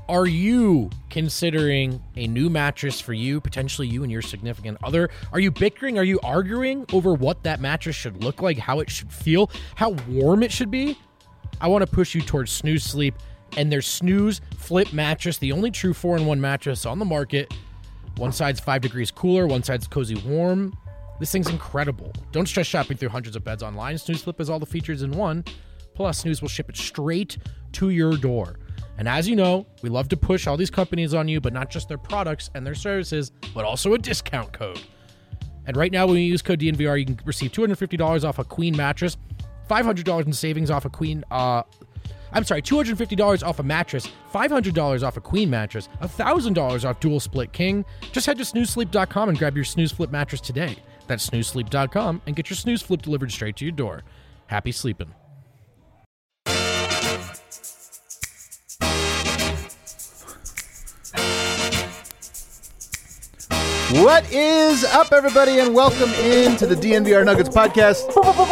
Are you considering a new mattress for you, potentially you and your significant other? Are you bickering? Are you arguing over what that mattress should look like, how it should feel, how warm it should be? I want to push you towards Snooze Sleep and their Snooze Flip mattress, the only true 4-in-1 mattress on the market. One side's 5 degrees cooler, one side's cozy warm. This thing's incredible. Don't stress shopping through hundreds of beds online. Snooze Flip has all the features in one. Plus, Snooze will ship it straight to your door. And as you know, we love to push all these companies on you, but not just their products and their services, but also a discount code. And right now, when you use code DNVR, you can receive $250 off a queen mattress, $500 in savings off a queen, $250 off a mattress, $500 off a queen mattress, $1,000 off dual split king. Just head to snoozesleep.com and grab your Snooze Flip mattress today. That's snoozesleep.com and get your Snooze Flip delivered straight to your door. Happy sleeping. What is up, everybody, and welcome into the DNVR Nuggets podcast.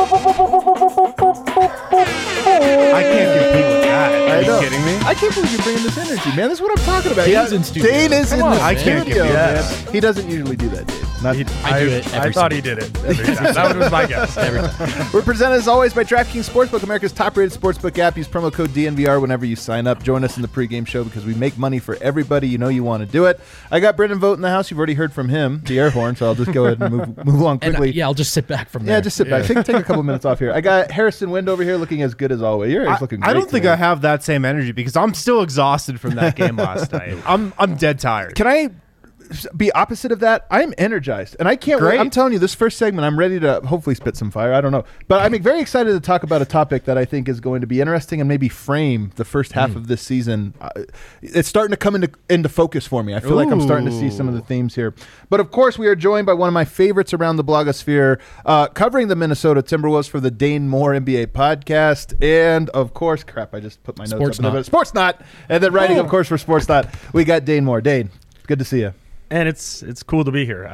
I can't compete with that. Are you kidding me? I can't believe you're bringing this energy, man. This is what I'm talking about. Dane's in studio. Dane is in the I can't studio, compete man. with He doesn't usually do that, Dave. I do it every I thought he did it every time. That was my guess. every time. We're presented, as always, by DraftKings Sportsbook, America's top-rated sportsbook app. Use promo code DNVR whenever you sign up. Join us in the pregame show because we make money for everybody. You know you want to do it. I got Brendan Vogt in the house. You've already heard from him, the air horn, so I'll just go ahead and move along quickly. I'll just sit back from there. Yeah, just sit back. Take a couple minutes off here. I got Harrison Wind over here looking as good as always. You're looking great. I don't think today. I have that same energy because I'm still exhausted from that game last night. I'm dead tired. Can I be opposite of that? I'm energized, and I can't wait. Great. I'm telling you, this first segment, I'm ready to hopefully spit some fire. I don't know. But I'm very excited to talk about a topic that I think is going to be interesting and maybe frame the first half of this season. It's starting to come into focus for me. I feel like I'm starting to see some of the themes here. But of course, we are joined by one of my favorites around the blogosphere, covering the Minnesota Timberwolves for the Dane Moore NBA podcast. And of course, I just put my notes up. Sportsnot. And then writing, of course, for Sportsnot, we got Dane Moore. Dane, good to see you. And it's cool to be here.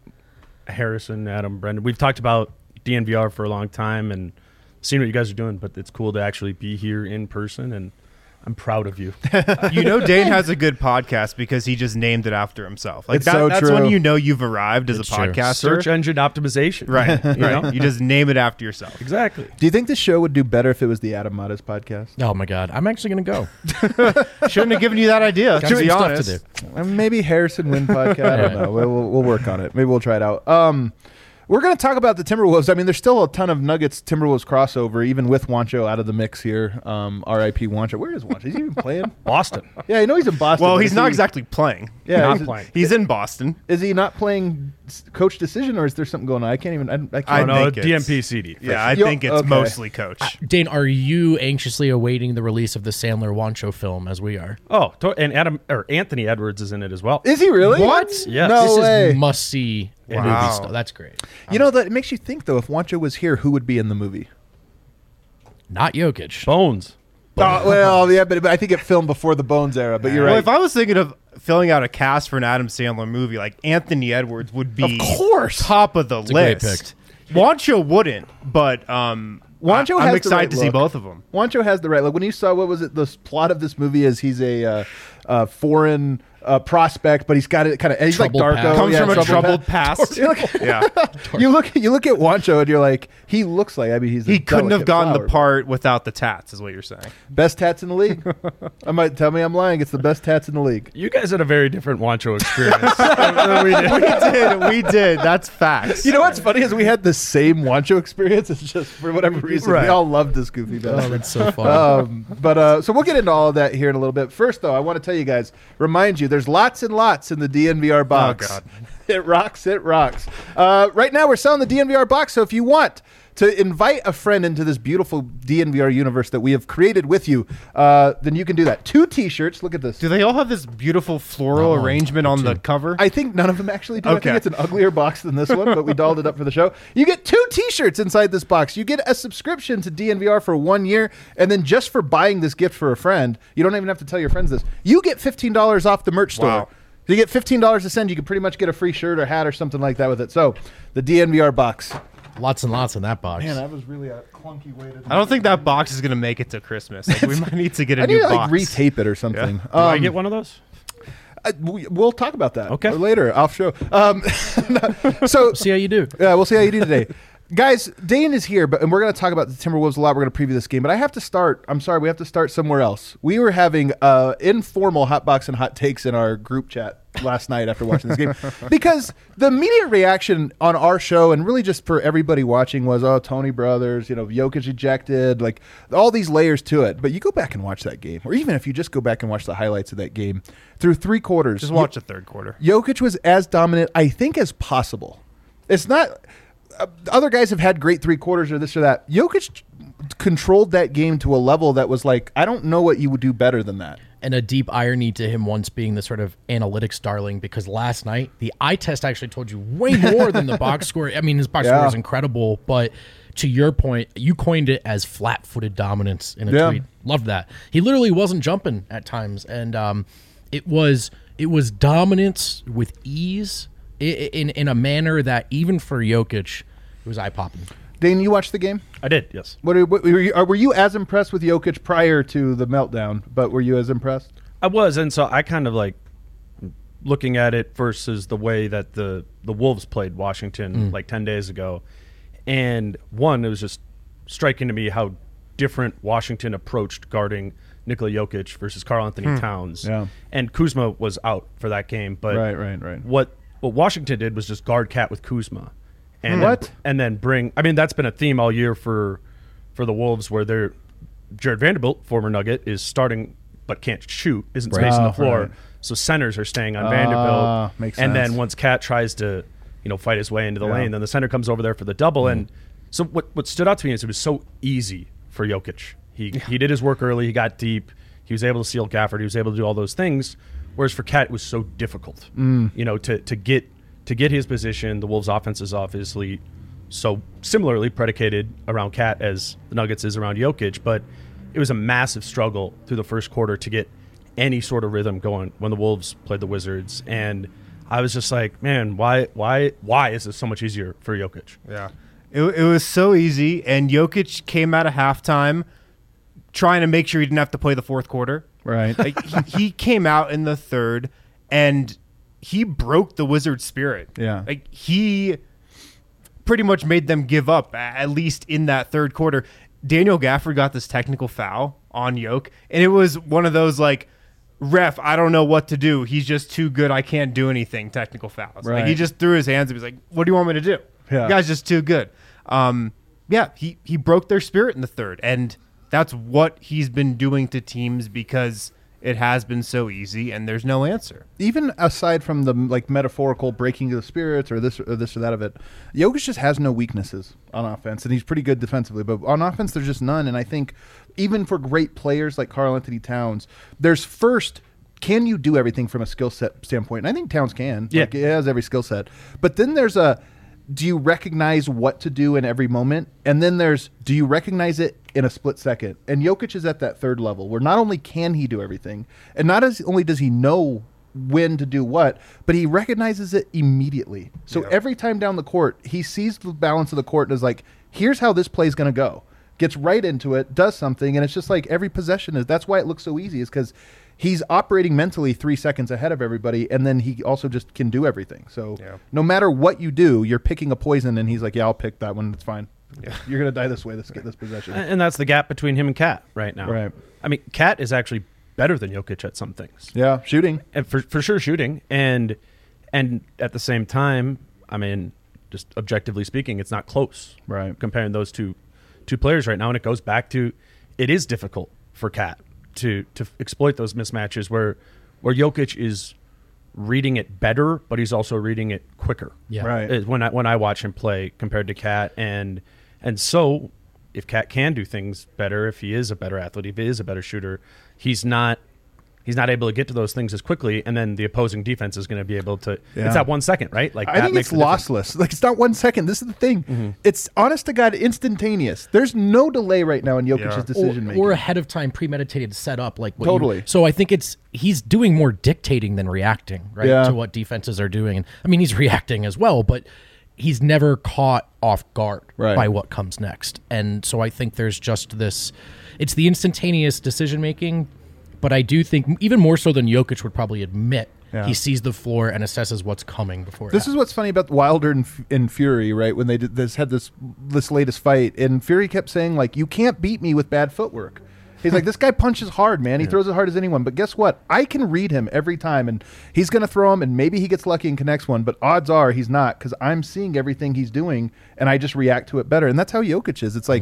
Harrison, Adam, Brendan, we've talked about DNVR for a long time and seen what you guys are doing, but it's cool to actually be here in person, and I'm proud of you. You know, Dane has a good podcast because he just named it after himself. Like It's so that's true. when you know you've arrived as It's a true. podcaster. Search engine optimization. Right. You know? You just name it after yourself. Exactly. Do you think this show would do better if it was the Adam Matas podcast? Oh, my God. I'm actually going to go. Shouldn't have given you that idea. Got To some be stuff honest. to do. Maybe Harrison Wind podcast. I don't know. We'll work on it. Maybe we'll try it out. We're going to talk about the Timberwolves. I mean, there's still a ton of Nuggets Timberwolves crossover, even with Juancho out of the mix here. R.I.P. Juancho. Where is Juancho? Is he even playing? Boston. Yeah, I know he's in Boston. Well, but he's is not he- exactly playing. Yeah, Not is, playing. He's in Boston. is he not playing coach decision, or is there something going on? I can't even. I I can't. know. No, think it's- DMP CD. Yeah, I Yo, think it's okay. mostly coach. Dane, are you anxiously awaiting the release of the Sandler Wancho film as we are? Oh, and Anthony Edwards is in it as well. Is he really? What? Yes. No This way. is must-see movie Wow. stuff. That's great. You know, that it makes you think, though, if Juancho was here, who would be in the movie? Not Jokic. Bones. Well, yeah, but I think it filmed before the Bones era, but you're Well, right. if I was thinking of filling out a cast for an Adam Sandler movie, like Anthony Edwards would be Of course. top of the a great list. Wancho wouldn't, but Wancho I'm has the excited right to see look. both of them. Juancho has the right look. When you saw, what was it, the plot of this movie is he's a foreign prospect, but he's got it kind of, he's like Troubled Darko. past. Comes Yeah, from a troubled past. You're like- Yeah, you look at Juancho and you're like, he looks like, I mean, he's a he couldn't have delicate gotten flower. the part without the tats, is what you're saying. Best tats in the league. I might tell me I'm lying. It's the best tats in the league. You guys had a very different Wancho experience than we did. We did. That's facts. You know what's funny is we had the same Juancho experience. It's just for whatever reason we Right. all loved this goofy Oh, bastard. that's so fun. So we'll get into all of that here in a little bit. First, though, I want to tell you guys, remind you, there's lots and lots in the DNVR box. God. It rocks. It rocks. Right now, we're selling the DNVR box. So if you want to invite a friend into this beautiful DNVR universe that we have created with you, then you can do that. 2 T-shirts. Look at this. Do they all have this beautiful floral Oh, arrangement on the two. cover? I think none of them actually do. I Okay. think it's an uglier box than this one, but we dolled it up for the show. You get 2 T-shirts inside this box. You get a subscription to DNVR for 1 year, and then just for buying this gift for a friend, you don't even have to tell your friends this. You get $15 off the merch store. Wow. So you get $15 to send. You can pretty much get a free shirt or hat or something like that with it. So the DNVR box. Lots and lots in that box. Man, that was really a clunky way to do I don't think that box is going to make it to Christmas. Like, we might need to get a I need new to box. retape it or something. Do I get one of those? We'll talk about that Okay. later off show. So See how you do. yeah, we'll see how you do today. Guys, Dane is here, and we're going to talk about the Timberwolves a lot. We're going to preview this game, but I have to start. I'm sorry, we have to start somewhere else. We were having informal hot box and hot takes in our group chat last night after watching this game because the immediate reaction on our show and really just for everybody watching was, oh, Tony Brothers, Jokic ejected, like all these layers to it. But you go back and watch that game, or even if you just go back and watch the highlights of that game through 3 quarters. Just watch the third quarter. Jokic was as dominant, I think, as possible. It's not other guys have had great 3 quarters or this or that. Jokic controlled that game to a level that was like, I don't know what you would do better than that. And a deep irony to him once being the sort of analytics darling, because last night the eye test actually told you way more than the box score. I mean, his box score was incredible, but to your point, you coined it as flat-footed dominance in a tweet. Loved that. He literally wasn't jumping at times, and it was dominance with ease in a manner that even for Jokic, it was eye-popping. Dane, you watched the game? I did, yes. Were you as impressed with Jokic prior to the meltdown, but were you as impressed? I was, and so I kind of like looking at it versus the way that the Wolves played Washington like 10 days ago. And one, it was just striking to me how different Washington approached guarding Nikola Jokic versus Karl Anthony Towns. Yeah. And Kuzma was out for that game. But Right. what Washington did was just guard Cat with Kuzma. And What? And then bring – I mean, that's been a theme all year for the Wolves where they're – Jared Vanderbilt, former Nugget, is starting but can't shoot, isn't spacing the floor. Right. So centers are staying on Vanderbilt. Makes and sense. then once Cat tries to, fight his way into the lane, then the center comes over there for the double. And so what stood out to me is it was so easy for Jokic. He did his work early. He got deep. He was able to seal Gafford. He was able to do all those things. Whereas for Cat, it was so difficult, to get his position. The Wolves' offense is obviously so similarly predicated around Cat as the Nuggets is around Jokic, but it was a massive struggle through the first quarter to get any sort of rhythm going when the Wolves played the Wizards. And I was just like, man, why is this so much easier for Jokic? Yeah. It was so easy, and Jokic came out of halftime trying to make sure he didn't have to play the fourth quarter. Right. Like, he came out in the third, and he broke the Wizards' spirit. Yeah. Like, he pretty much made them give up, at least in that third quarter. Daniel Gafford got this technical foul on Jokic, and it was one of those, like, ref, I don't know what to do. He's just too good. I can't do anything. Technical fouls. Right. Like, he just threw his hands up. He's like, what do you want me to do? Yeah. The guy's just too good. He broke their spirit in the third, and that's what he's been doing to teams because it has been so easy, and there's no answer. Even aside from the metaphorical breaking of the spirits or this or that of it, Jokic just has no weaknesses on offense, and he's pretty good defensively. But on offense, there's just none. And I think even for great players like Karl Anthony Towns, there's first, can you do everything from a skill set standpoint? And I think Towns can. Yeah. Like, he has every skill set. But then there's do you recognize what to do in every moment? And then there's, do you recognize it in a split second? And Jokic is at that third level where not only can he do everything, and not only does he know when to do what, but he recognizes it immediately. So every time down the court, he sees the balance of the court and is like, here's how this play is going to go. Gets right into it, does something, and it's just like every possession is. That's why it looks so easy, is because he's operating mentally 3 seconds ahead of everybody, and then he also just can do everything. So no matter what you do, you're picking a poison, and he's like, yeah, I'll pick that one. It's fine. Yeah. You're going to die this way. Let's get this possession. And that's the gap between him and Cat right now. Right. I mean, Cat is actually better than Jokic at some things. Yeah, shooting. And for sure shooting. And at the same time, I mean, just objectively speaking, it's not close. Right. Comparing those two players right now. And it goes back to, it is difficult for Cat to exploit those mismatches where Jokic is reading it better, but he's also reading it quicker. Yeah. Right. When I watch him play compared to Cat, and so if Cat can do things better, if he is a better athlete, if he is a better shooter, he's not he's not able to get to those things as quickly, and then the opposing defense is going to be able to. Yeah. It's that 1 second, right? Like I that think makes it's the difference. lossless. Like, it's not 1 second. This is the thing. It's honest to God instantaneous. There's no delay right now in Jokic's Yeah. decision making. or ahead of time premeditated setup, like what Totally. so I think he's doing more dictating than reacting, right, Yeah. to what defenses are doing. And I mean, he's reacting as well, but he's never caught off guard Right. by what comes next. And so I think there's just this. It's the instantaneous decision making, but I do think even more so than Jokic would probably admit. Yeah. He sees the floor and assesses what's coming before. This is what's funny about Wilder and Fury, right? When they had this latest fight, and Fury kept saying, like, you can't beat me with bad footwork. He's like, this guy punches hard, man. He throws as hard as anyone. But guess what? I can read him every time, and he's going to throw him, and maybe he gets lucky and connects one, but odds are he's not, because I'm seeing everything he's doing, and I just react to it better. And that's how Jokic is. It's like,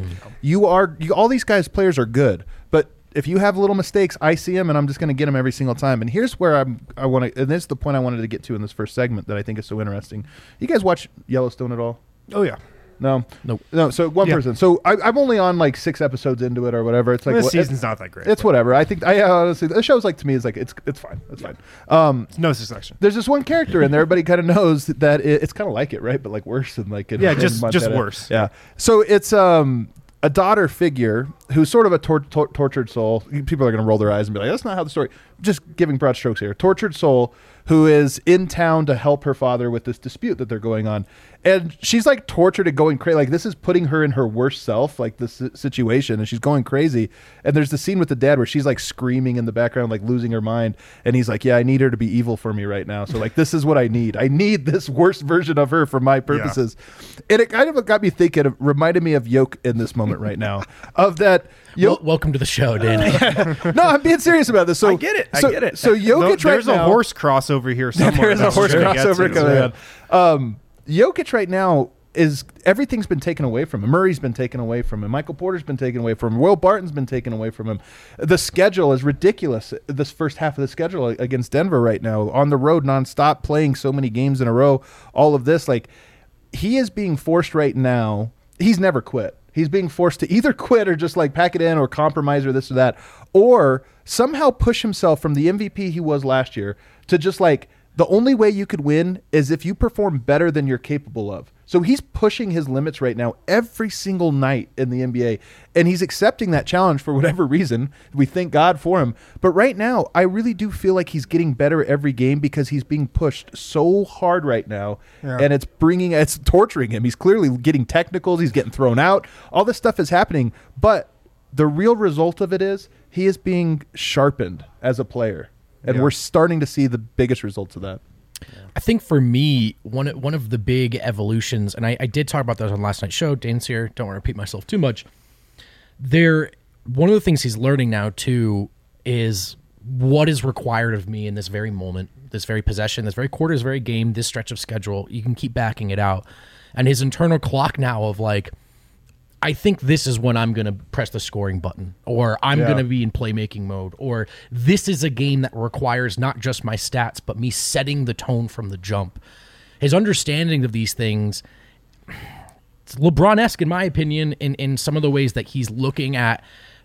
all these players are good, but if you have little mistakes, I see them, and I'm just going to get them every single time. And here's where I want to, and this is the point I wanted to get to in this first segment that I think is so interesting. You guys watch Yellowstone at all? Oh yeah. No, Nope. no. So one Yeah. person. So I'm only on like 6 episodes into it or whatever. It's like This season's not that great. It's whatever. I think I honestly the show's like to me is like it's fine. It's fine. It's no succession. There's this one character in there. Everybody kind of knows that it's kind of like it, right? But like worse than like Yeah, in just Montana. worse. Yeah. So it's a daughter figure who's sort of a tortured soul. People are going to roll their eyes and be like, that's not how the story. Just giving broad strokes here. Tortured soul who is in town to help her father with this dispute that they're going on. And she's like tortured and going crazy. Like this is putting her in her worst self, like this situation. And she's going crazy. And there's the scene with the dad where she's like screaming in the background, like losing her mind. And he's like, yeah, I need her to be evil for me right now. So like, this is what I need. I need this worst version of her for my purposes. And it kind of got me thinking, it reminded me of Yoke in this moment right now. Of that. Welcome to the show, Dan. No, I'm being serious about this. So I get it. I get it. So Jokic There's right now, a horse crossover here somewhere. there's a that we're horse gonna get crossover to. coming on. Jokic right now is everything's been taken away from him. Murray's been taken away from him. Michael Porter's been taken away from him. Will Barton's been taken away from him. The schedule is ridiculous. This first half of the schedule against Denver right now, on the road nonstop, playing so many games in a row. All of this, like he is being forced right now. He's never quit. He's being forced to either quit or just like pack it in or compromise or this or that, or somehow push himself from the MVP he was last year to just like the only way you could win is if you perform better than you're capable of. So he's pushing his limits right now every single night in the NBA, and he's accepting that challenge for whatever reason. We thank God for him. But right now, I really do feel like he's getting better every game because he's being pushed so hard right now, and it's torturing him. He's clearly getting technicals. He's getting thrown out. All this stuff is happening, but the real result of it is he is being sharpened as a player, and we're starting to see the biggest results of that. I think for me, one of the big evolutions, and I did talk about that on last night's show. Dane's here. Don't want to repeat myself too much. One of the things he's learning now too is what is required of me in this very moment, this very possession, this very quarter, this very game, this stretch of schedule. You can keep backing it out, and his internal clock now of like, I think this is when I'm going to press the scoring button, or I'm going to be in playmaking mode, or this is a game that requires not just my stats, but me setting the tone from the jump. His understanding of these things, it's LeBron-esque in my opinion, in some of the ways that he's looking at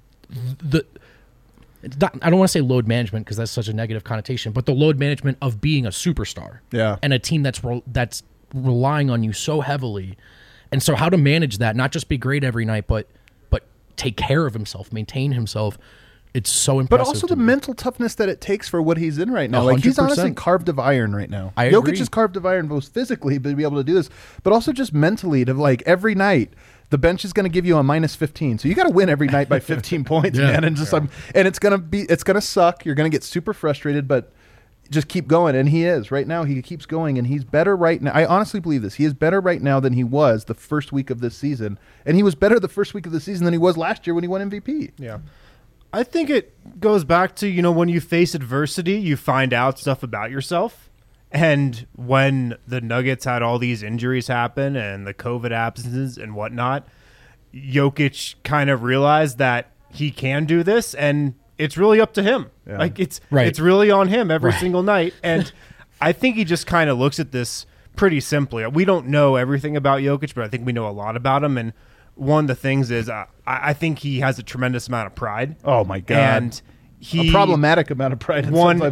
I don't want to say load management because that's such a negative connotation, but the load management of being a superstar, and a team that's relying on you so heavily. And so how to manage that, not just be great every night, but take care of himself, maintain himself. It's so impressive. But also the me. mental toughness that it takes for what he's in right now. Like he's 100%. honestly carved of iron right now. I Jokic agree. is carved of iron both physically to be able to do this, but also just mentally to like every night. The bench is going to give you a minus 15. So you got to win every night by 15 points, man. And just and it's going to suck. You're going to get super frustrated, but just keep going. And he is right now. He keeps going, and he's better right now. I honestly believe this. He is better right now than he was the first week of this season, and he was better the first week of the season than he was last year when he won MVP. Yeah. I think it goes back to, when you face adversity, you find out stuff about yourself. And when the Nuggets had all these injuries happen and the COVID absences and whatnot, Jokic kind of realized that he can do this, and it's really up to him. Yeah. Like it's Right. really on him every single night. And I think he just kind of looks at this pretty simply. We don't know everything about Jokic, but I think we know a lot about him. And one of the things is I think he has a tremendous amount of pride. Oh my God. And a problematic amount of pride. He won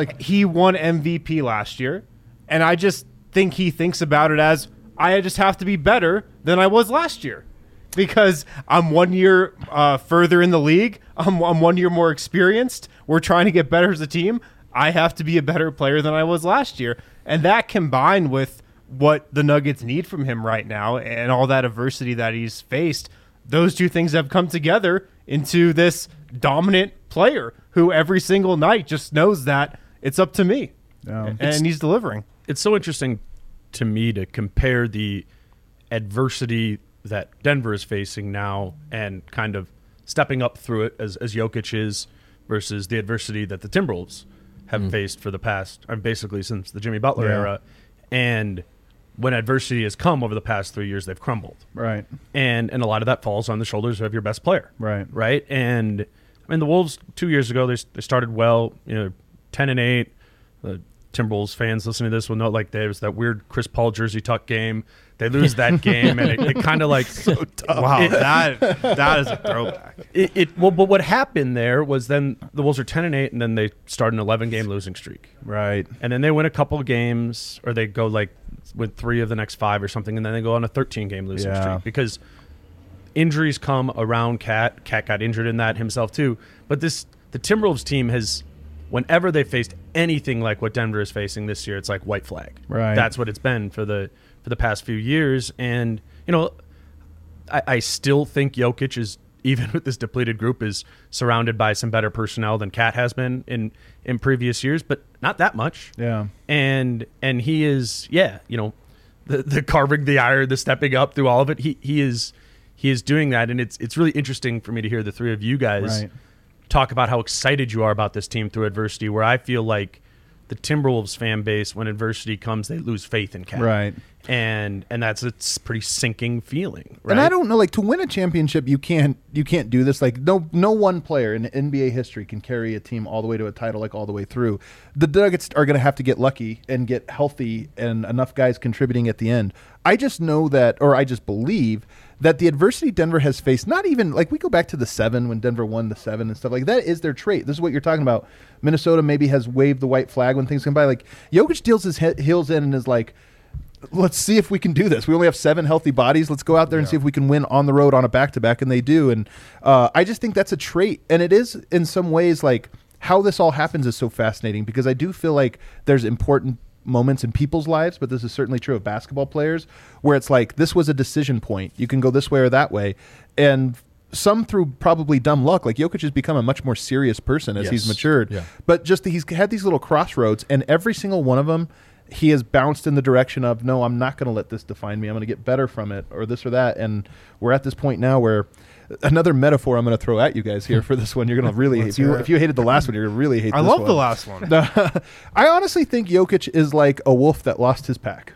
MVP last year, and I just think he thinks about it as I just have to be better than I was last year because I'm 1 year further in the league. I'm 1 year more experienced. We're trying to get better as a team. I have to be a better player than I was last year, and that combined with what the Nuggets need from him right now and all that adversity that he's faced, those two things have come together into this dominant player who every single night just knows that it's up to me. And he's delivering. It's so interesting to me to compare the adversity that Denver is facing now and kind of stepping up through it as Jokic is versus the adversity that the Timberwolves have faced for the past, basically since the Jimmy Butler era. And when adversity has come over the past 3 years, they've crumbled. Right. And a lot of that falls on the shoulders of your best player. Right. Right. And I mean, the Wolves 2 years ago, they started well, 10-8. The Timberwolves fans listening to this will know, like, there's that weird Chris Paul jersey tuck game. They lose that game, and it kind of like so tough. Wow, that is a throwback. But what happened there was then the Wolves are 10-8, and then they start an 11-game losing streak. Right. And then they win a couple of games, or they go like with 3 of the next 5 or something, and then they go on a 13-game losing streak because injuries come around Cat. Cat got injured in that himself too. But the Timberwolves team has, whenever they faced anything like what Denver is facing this year, it's like white flag. Right. That's what it's been for the past few years. And, I still think Jokic is, even with this depleted group, is surrounded by some better personnel than Cat has been in previous years, but not that much. Yeah. And he is, the carving the iron, the stepping up through all of it. He is doing that. And it's really interesting for me to hear the three of you guys talk about how excited you are about this team through adversity, where I feel like the Timberwolves fan base, when adversity comes, they lose faith in Cat. Right. And it's a pretty sinking feeling. Right? And I don't know, like, to win a championship, you can't do this. Like, no one player in NBA history can carry a team all the way to a title, like all the way through. The Nuggets are going to have to get lucky and get healthy and enough guys contributing at the end. I just know that, or I just believe that the adversity Denver has faced, not even, like, we go back to the 7 when Denver won the 7 and stuff, like, that is their trait. This is what you're talking about. Minnesota maybe has waved the white flag when things come by. Like, Jokic deals his heels in and is like, let's see if we can do this. We only have 7 healthy bodies. Let's go out there and see if we can win on the road on a back-to-back, and they do. And I just think that's a trait. And it is, in some ways, like, how this all happens is so fascinating, because I do feel like there's important moments in people's lives, but this is certainly true of basketball players, where it's like, this was a decision point. You can go this way or that way. And some through probably dumb luck, like Jokic has become a much more serious person as he's matured. Yeah. But just he's had these little crossroads, and every single one of them, he has bounced in the direction of, no, I'm not going to let this define me. I'm going to get better from it, or this or that. And we're at this point now where, another metaphor I'm going to throw at you guys here for this one, you're going to really hate. If you hated the last one, you're going to really hate this one. I love the last one. I honestly think Jokic is like a wolf that lost his pack.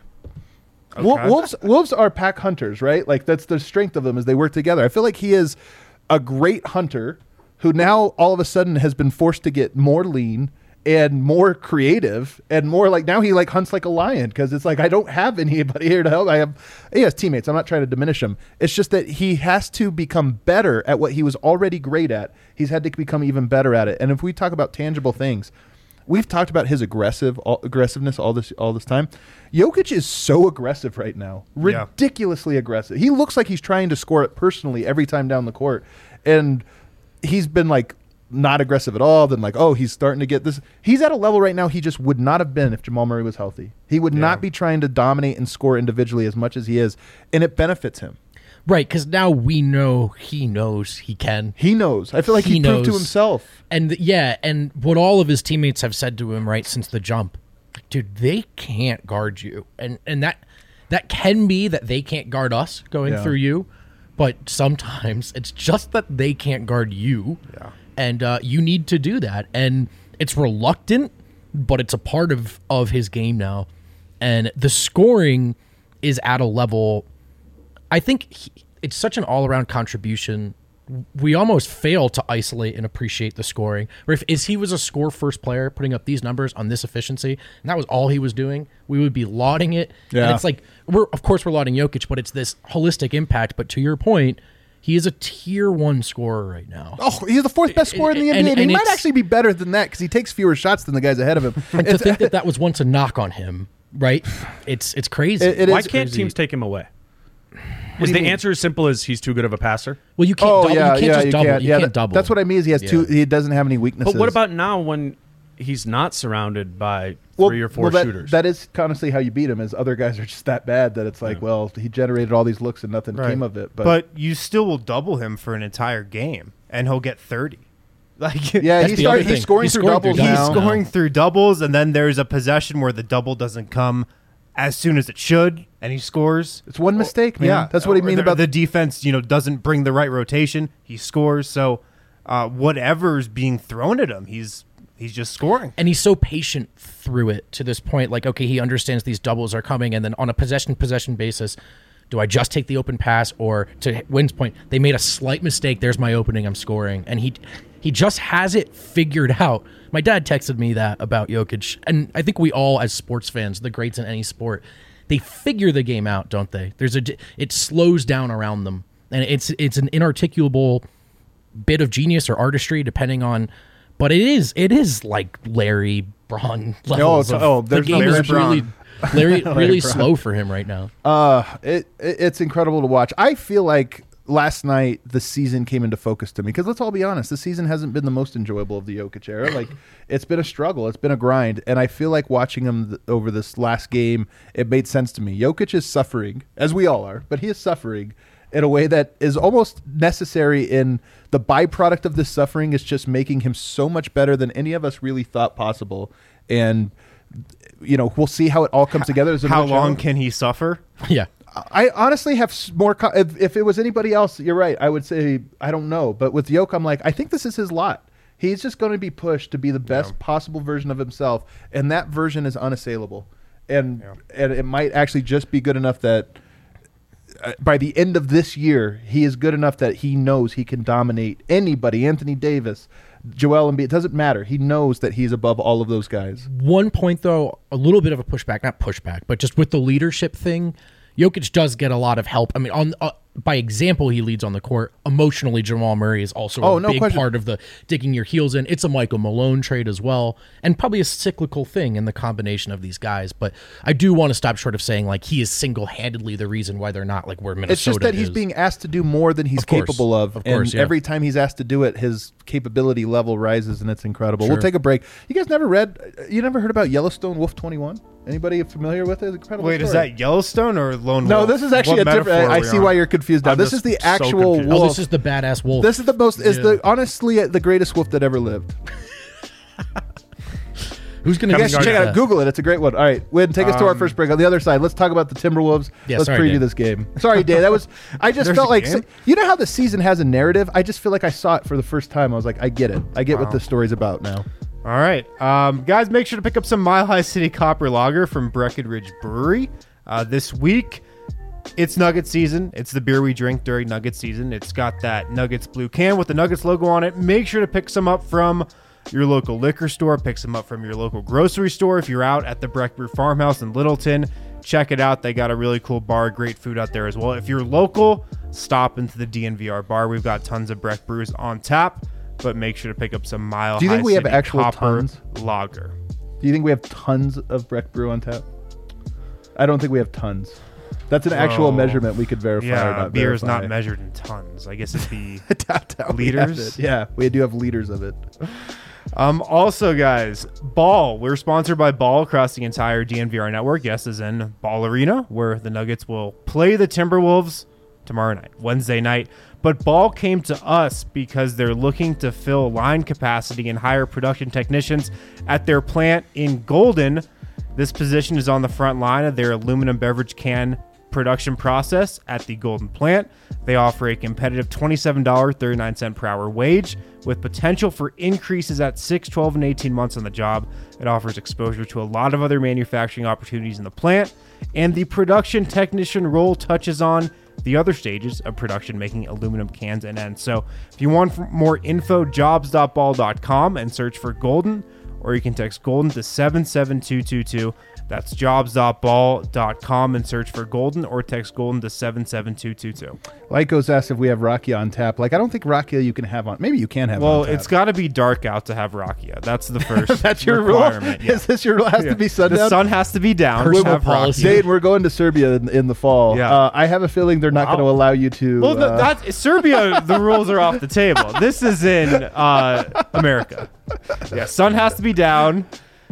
Okay. Wolves are pack hunters, right? Like, that's the strength of them, as they work together. I feel like he is a great hunter who now all of a sudden has been forced to get more lean and more creative and more like, now he like hunts like a lion, because it's like, I don't have anybody here to help. He has teammates. I'm not trying to diminish him. It's just that he has to become better at what he was already great at. He's had to become even better at it. And if we talk about tangible things, we've talked about his aggressiveness all this time. Jokic is so aggressive right now, ridiculously aggressive. He looks like he's trying to score it personally every time down the court, and he's been like not aggressive at all. Then like, oh, he's starting to get this. He's at a level right now he just would not have been if Jamal Murray was healthy. He would not be trying to dominate and score individually as much as he is, and it benefits him. Right, because now we know he knows he can. He knows. I feel like he proved to himself. And and what all of his teammates have said to him right since the jump, dude, they can't guard you. And that can be that they can't guard us going through you, but sometimes it's just that they can't guard you. Yeah. And you need to do that. And it's reluctant, but it's a part of his game now. And the scoring is at a level, I think it's such an all-around contribution. We almost fail to isolate and appreciate the scoring. Or if he was a score-first player putting up these numbers on this efficiency, and that was all he was doing, we would be lauding it. Yeah. And it's like, we're lauding Jokic, but it's this holistic impact. But to your point, He is a tier 1 scorer right now. Oh, he's the 4th best scorer in the NBA. And he might actually be better than that because he takes fewer shots than the guys ahead of him. And to think that was once a knock on him, right? It's crazy. Why can't teams take him away? Is the answer as simple as he's too good of a passer? Well, you can't double. You can't just double. You can't double. That's what I mean is he has two. He doesn't have any weaknesses. But what about now when he's not surrounded by 3 or 4 shooters? That is honestly how you beat him. Is other guys are just that bad that it's like, well, he generated all these looks and nothing came of it. But you still will double him for an entire game, and he'll get 30. Like he's scoring through doubles. He's scoring through doubles, and then there's a possession where the double doesn't come as soon as it should, and he scores. It's one mistake, man. Yeah, that's what I mean about the defense. Doesn't bring the right rotation. He scores. So whatever's being thrown at him, he's just scoring. And he's so patient through it to this point. Like, okay, he understands these doubles are coming, and then on a possession basis, do I just take the open pass, or to Wynn's point, they made a slight mistake. There's my opening. I'm scoring, and he just has it figured out. My dad texted me that about Jokic, and I think we all, as sports fans, the greats in any sport, they figure the game out, don't they? It slows down around them, and it's an inarticulable bit of genius or artistry, depending on. But it is like Larry Braun levels. The game is really slow for him right now. It's incredible to watch. I feel like last night the season came into focus to me because let's all be honest, the season hasn't been the most enjoyable of the Jokic era. Like it's been a struggle, it's been a grind, and I feel like watching him over this last game, it made sense to me. Jokic is suffering, as we all are, but he is suffering in a way that is almost necessary, in the byproduct of this suffering is just making him so much better than any of us really thought possible. And we'll see how it all comes together. How long can he suffer? Yeah. I honestly have more. If it was anybody else, you're right. I would say I don't know. But with Jokic, I'm like, I think this is his lot. He's just going to be pushed to be the best possible version of himself, and that version is unassailable. And it might actually just be good enough that by the end of this year, he is good enough that he knows he can dominate anybody. Anthony Davis, Joel Embiid. It doesn't matter. He knows that he's above all of those guys. One point, though, a little bit of a pushback, not pushback, but just with the leadership thing. Jokic does get a lot of help. I mean, by example, he leads on the court. Emotionally, Jamal Murray is also a big part of the digging your heels in. It's a Michael Malone trade as well, and probably a cyclical thing in the combination of these guys. But I do want to stop short of saying like he is single-handedly the reason why they're not like where Minnesota is. It's just that he's being asked to do more than he's capable of. Every time he's asked to do it, his capability level rises, and it's incredible. Sure. We'll take a break. You guys never heard about Yellowstone Wolf 21? Anybody familiar with it? Incredible Wait, story. Is that Yellowstone or Lone Wolf? No, this is actually a different. I see why you're confused now. This is the actual wolf. Oh, this is the badass wolf. This is the most. Honestly the greatest wolf that ever lived. Who's going to check it out? Google it. It's a great one. All right, Wynn, take us to our first break. On the other side, let's talk about the Timberwolves. Let's preview this game. Sorry, Dave. I just felt like you know how the season has a narrative. I just feel like I saw it for the first time. I was like, I get it. I get what the story's about now. All right. Guys, make sure to pick up some Mile High City Copper Lager from Breckenridge Brewery. This week, it's Nugget season. It's the beer we drink during Nugget season. It's got that Nuggets blue can with the Nuggets logo on it. Make sure to pick some up from your local liquor store. Pick some up from your local grocery store. If you're out at the Breck Brew Farmhouse in Littleton, check it out. They got a really cool bar, great food out there as well. If you're local, stop into the DNVR bar. We've got tons of Breck brews on tap. But make sure to pick up some Mile High City. Do you think we have actual Copper tons? Lager? Do you think we have tons of Breck Brew on tap? I don't think we have tons. That's an actual measurement we could verify. Yeah, beer is not measured in tons. I guess it'd be liters. Yeah, we do have liters of it. Also, guys, Ball. We're sponsored by Ball across the entire DNVR network. Yes, as in Ball Arena, where the Nuggets will play the Timberwolves tomorrow night, Wednesday night. But Ball came to us because they're looking to fill line capacity and hire production technicians at their plant in Golden. This position is on the front line of their aluminum beverage can production process at the Golden plant. They offer a competitive $27.39 per hour wage with potential for increases at 6, 12, and 18 months on the job. It offers exposure to a lot of other manufacturing opportunities in the plant, and the production technician role touches on the other stages of production, making aluminum cans and ends. So if you want more info, jobs.ball.com and search for Golden, or you can text Golden to 77222. That's jobs.ball.com and search for Golden, or text Golden to 77222. Lycos asked if we have Rakia on tap. Like, I don't think Rakia you can have on. Maybe you can have Well, on tap. it's got to be dark out to have Rakia. That's the first That's your requirement. rule? Yeah. Is this your rule? Has to be sundown? The sun has to be down. Personal to have policy. Rakia. Dane, we're going to Serbia in the fall. Yeah. I have a feeling they're not Wow. going to allow you to. Well, that's Serbia. The rules are off the table. This is in America. Yeah, sun has to be down.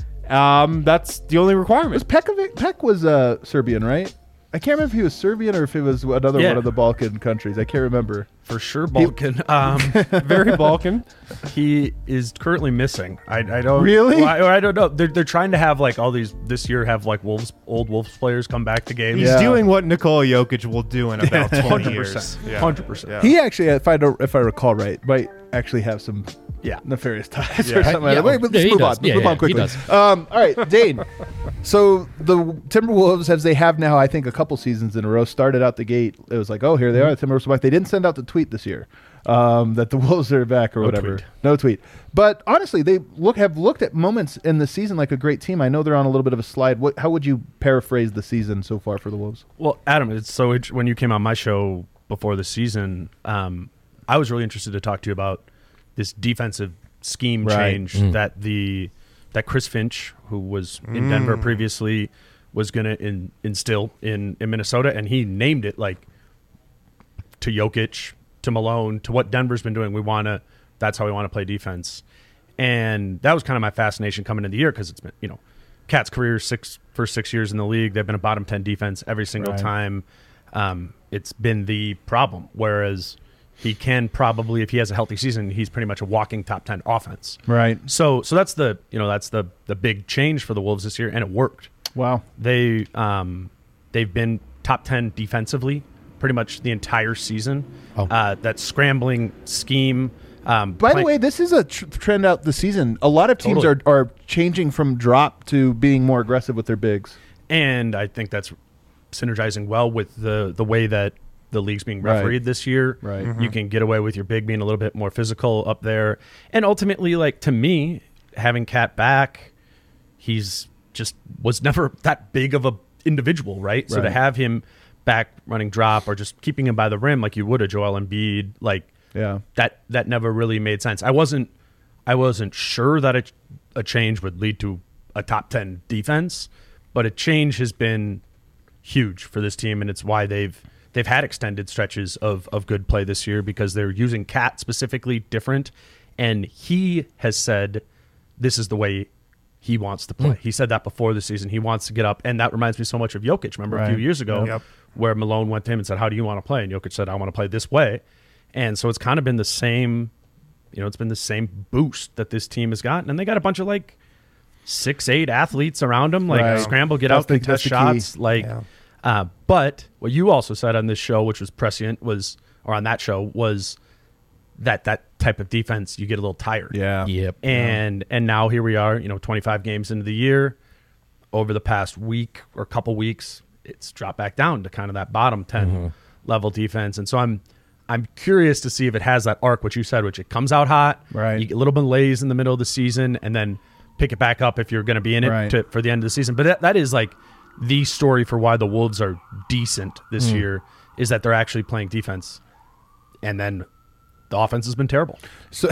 That's the only requirement. Peck was Serbian, right? I can't remember if he was Serbian or if it was another Yeah. one of the Balkan countries. I can't remember. For sure, Balkan. Very Balkan. He is currently missing. I don't Really? Well, I don't know. They're trying to have like all these this year. Have like old Wolves players come back to games. He's Yeah. doing what Nikola Jokic will do in about 20 years. 100%. Yeah. He actually, if I recall right, might actually have some Yeah. nefarious ties Yeah. or something like that. Yeah. Wait, let's Yeah, he move on. does. Let's Yeah, move yeah, on quickly. he does. All right, Dane. So the Timberwolves, as they have now, I think a couple seasons in a row, started out the gate. It was like, oh, here they are, the Timberwolves are back. They didn't send out the tweet this year that the Wolves are back or No whatever. tweet. No tweet. But honestly, they have looked at moments in the season like a great team. I know they're on a little bit of a slide. How would you paraphrase the season so far for the Wolves? Well, Adam, when you came on my show before the season, I was really interested to talk to you about this defensive scheme Right. change that Chris Finch, who was in Denver previously, was going to instill in Minnesota, and he named it like to Jokic, to Malone, to what Denver's been doing. That's how we want to play defense, and that was kind of my fascination coming into the year because it's been Cat's career first 6 years in the league, they've been a bottom 10 defense every single Right. time. It's been the problem. Whereas he can probably, if he has a healthy season, he's pretty much a walking top 10 offense. Right. So that's the big change for the Wolves this year, and it worked. Wow. They've been top 10 defensively pretty much the entire season. Oh. That scrambling scheme. By the way, this is a trend out the season. A lot of teams Totally. are changing from drop to being more aggressive with their bigs. And I think that's synergizing well with the way that the league's being Right. refereed this year. Right. You can get away with your big being a little bit more physical up there. And ultimately, like, to me, having Cat back, he's just was never that big of a individual, right? So to Right. have him back running drop or just keeping him by the rim like you would a Joel Embiid, like Yeah. that never really made sense. I wasn't sure that a change would lead to a top 10 defense, but a change has been huge for this team, and it's why they've had extended stretches of good play this year because they're using Cat specifically different, and he has said this is the way he wants to play. He said that before the season. He wants to get up, and that reminds me so much of Jokic. Remember a few Right. years ago Yep. where Malone went to him and said, how do you want to play? And Jokic said, I want to play this way. And so it's kind of been the same, it's been the same boost that this team has gotten. And they got a bunch of like 6'8" athletes around them, like Right. scramble, get That's out, the- contest that's the key. shots. Like, Yeah. but what you also said on this show, which was prescient, or on that show, was that type of defense, you get a little tired. Yeah. Yep. And now here we are, 25 games into the year. Over the past week or couple weeks, it's dropped back down to kind of that bottom 10 level defense. And so I'm curious to see if it has that arc, which you said, which it comes out hot, Right. you get a little bit malaise in the middle of the season, and then pick it back up if you're going to be in it Right. for the end of the season. But that is like the story for why the Wolves are decent this year, is that they're actually playing defense. And then the offense has been terrible. So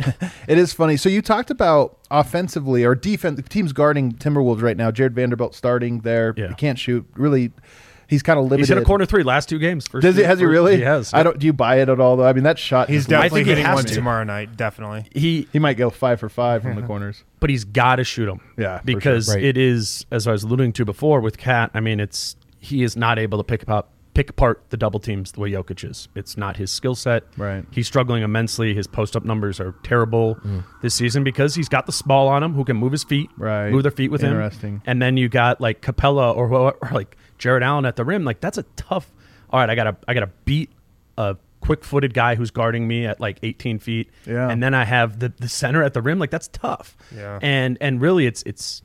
it is funny. So you talked about offensively or defense. The team's guarding Timberwolves right now. Jared Vanderbilt starting there. Yeah. He can't shoot. Really, he's kind of limited. He's hit a corner three last two games. Has he really? He has. I don't. Do you buy it at all though? I mean, that shot. He's is- definitely think he hitting has one to. tomorrow night. Definitely. He He might go 5 for 5 from the corners. but he's got to shoot them. Yeah, for because sure. Right. it is, as I was alluding to before with Cat. I mean, he is not able to pick apart the double teams the way Jokic is. It's not his skill set. Right. He's struggling immensely. His post up numbers are terrible this season because he's got the small on him who can move his feet, Right. move their feet with Interesting. him. And then you got like Capella or like Jared Allen at the rim. Like that's a tough. All right, I gotta beat a quick-footed guy who's guarding me at like 18 feet. Yeah. And then I have the center at the rim. Like that's tough. Yeah. And really, it's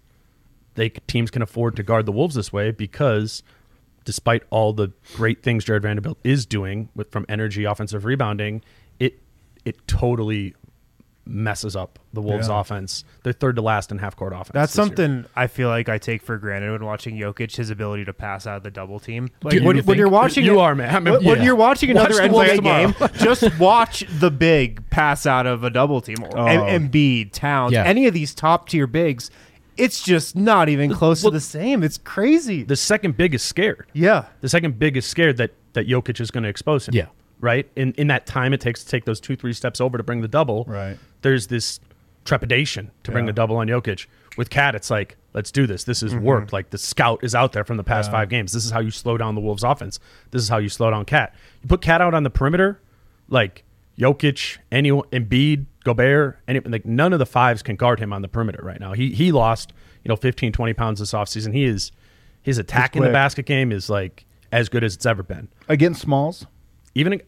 teams can afford to guard the Wolves this way because despite all the great things Jared Vanderbilt is doing from energy, offensive rebounding, it totally messes up the Wolves Yeah. offense. They're third to last in half court offense. That's this year. something I feel like I take for granted when watching Jokic, his ability to pass out of the double team. Like Do you when think? you're watching You are, man. I mean, When Yeah. you're watching Watch another the Wolves NBA game, tomorrow. just watch the big pass out of a double team. Oh. Embiid, Towns, Yeah. any of these top tier bigs, it's just not even close to the same. It's crazy. The second big is scared. Yeah. The second big is scared that Jokic is going to expose him. Yeah. Right? In that time it takes to take those 2-3 steps over to bring the double. Right. There's this trepidation to bring Yeah. the double on Jokic. With Cat, it's like, let's do this. This is worked. Like the scout is out there from the past 5 games. This is how you slow down the Wolves offense. This is how you slow down Cat. You put Cat out on the perimeter, like Jokic, Embiid, Gobert, like none of the fives can guard him on the perimeter right now. He lost, 15, 20 pounds this offseason. His attack in the quick. basket game is like as good as it's ever been. Against Smalls? Even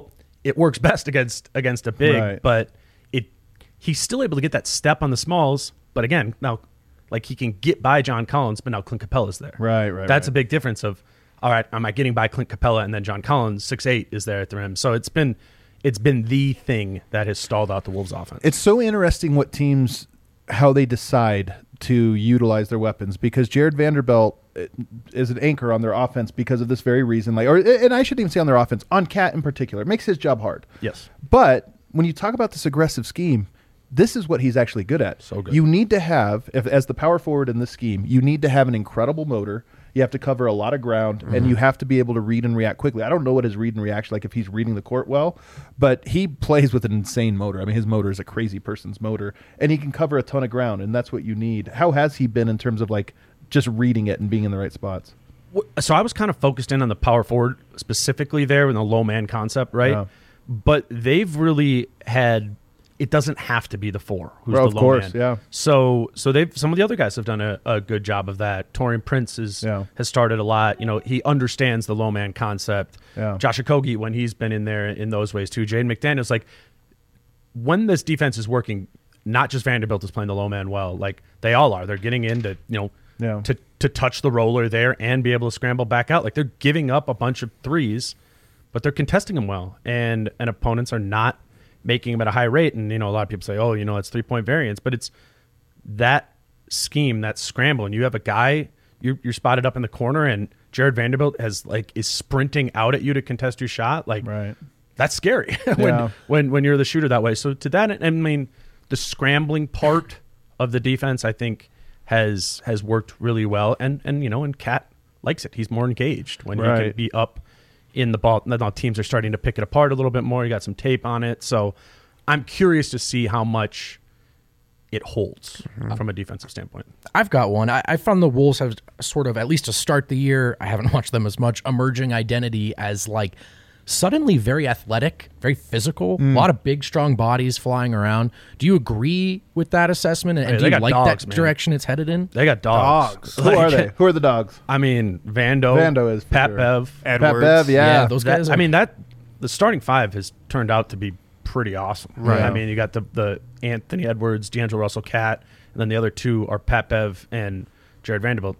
it works best against a big, Right. but he's still able to get that step on the smalls. But again, now like he can get by John Collins, but now Clint Capella's there. Right. That's a big difference of, all right, am I getting by Clint Capella and then John Collins 6'8" is there at the rim. So it's been the thing that has stalled out the Wolves offense. It's so interesting what teams, how they decide to utilize their weapons, because Jared Vanderbilt is an anchor on their offense because of this very reason. And I shouldn't even say on their offense, on Cat in particular. It makes his job hard. Yes. But when you talk about this aggressive scheme, this is what he's actually good at. So good. You need to have, as the power forward in this scheme, you need to have an incredible motor. You have to cover a lot of ground, and you have to be able to read and react quickly. I don't know what his read and reaction like if he's reading the court well, but he plays with an insane motor. I mean, his motor is a crazy person's motor, and he can cover a ton of ground, and that's what you need. How has he been in terms of like just reading it and being in the right spots? So I was kind of focused in on the power forward specifically there in the low man concept, right? Yeah. But they've really had. It doesn't have to be the 4 who's Well, the of low course, man. yeah. So they've some of the other guys have done a good job of that. Torian Prince has started a lot. He understands the low man concept. Yeah. Josh Okogie, when he's been in there in those ways too. Jaden McDaniels, like when this defense is working, not just Vanderbilt is playing the low man well. Like they all are. They're getting into Yeah. to touch the roller there and be able to scramble back out. Like they're giving up a bunch of threes, but they're contesting them well, and opponents are not making them at a high rate. And a lot of people say, oh, it's 3-point variance, but it's that scheme, that scramble, and you have a guy you're spotted up in the corner, and Jared Vanderbilt is sprinting out at you to contest your shot. Like Right. that's scary Yeah. when you're the shooter that way. So to that, I mean, the scrambling part of the defense, I think, has worked really well, and Cat likes it. He's more engaged when he Right. can be up in the ball. Now teams are starting to pick it apart a little bit more. You got some tape on it, so I'm curious to see how much it holds from a defensive standpoint. I've got one. I found the Wolves have sort of, at least to start the year, I haven't watched them as much, emerging identity as like suddenly very athletic, very physical, a lot of big, strong bodies flying around. Do you agree with that assessment? And Hey, do they you got like dogs, that man. direction it's headed in? They got dogs. Who are they? Who are the dogs? I mean, Vando Vando is for Pat sure. Bev. Edwards. Pat Bev, yeah. those guys. I mean, the starting 5 has turned out to be pretty awesome. Right. I mean, you got the Anthony Edwards, D'Angelo Russell, Cat, and then the other 2 are Pat Bev and Jared Vanderbilt.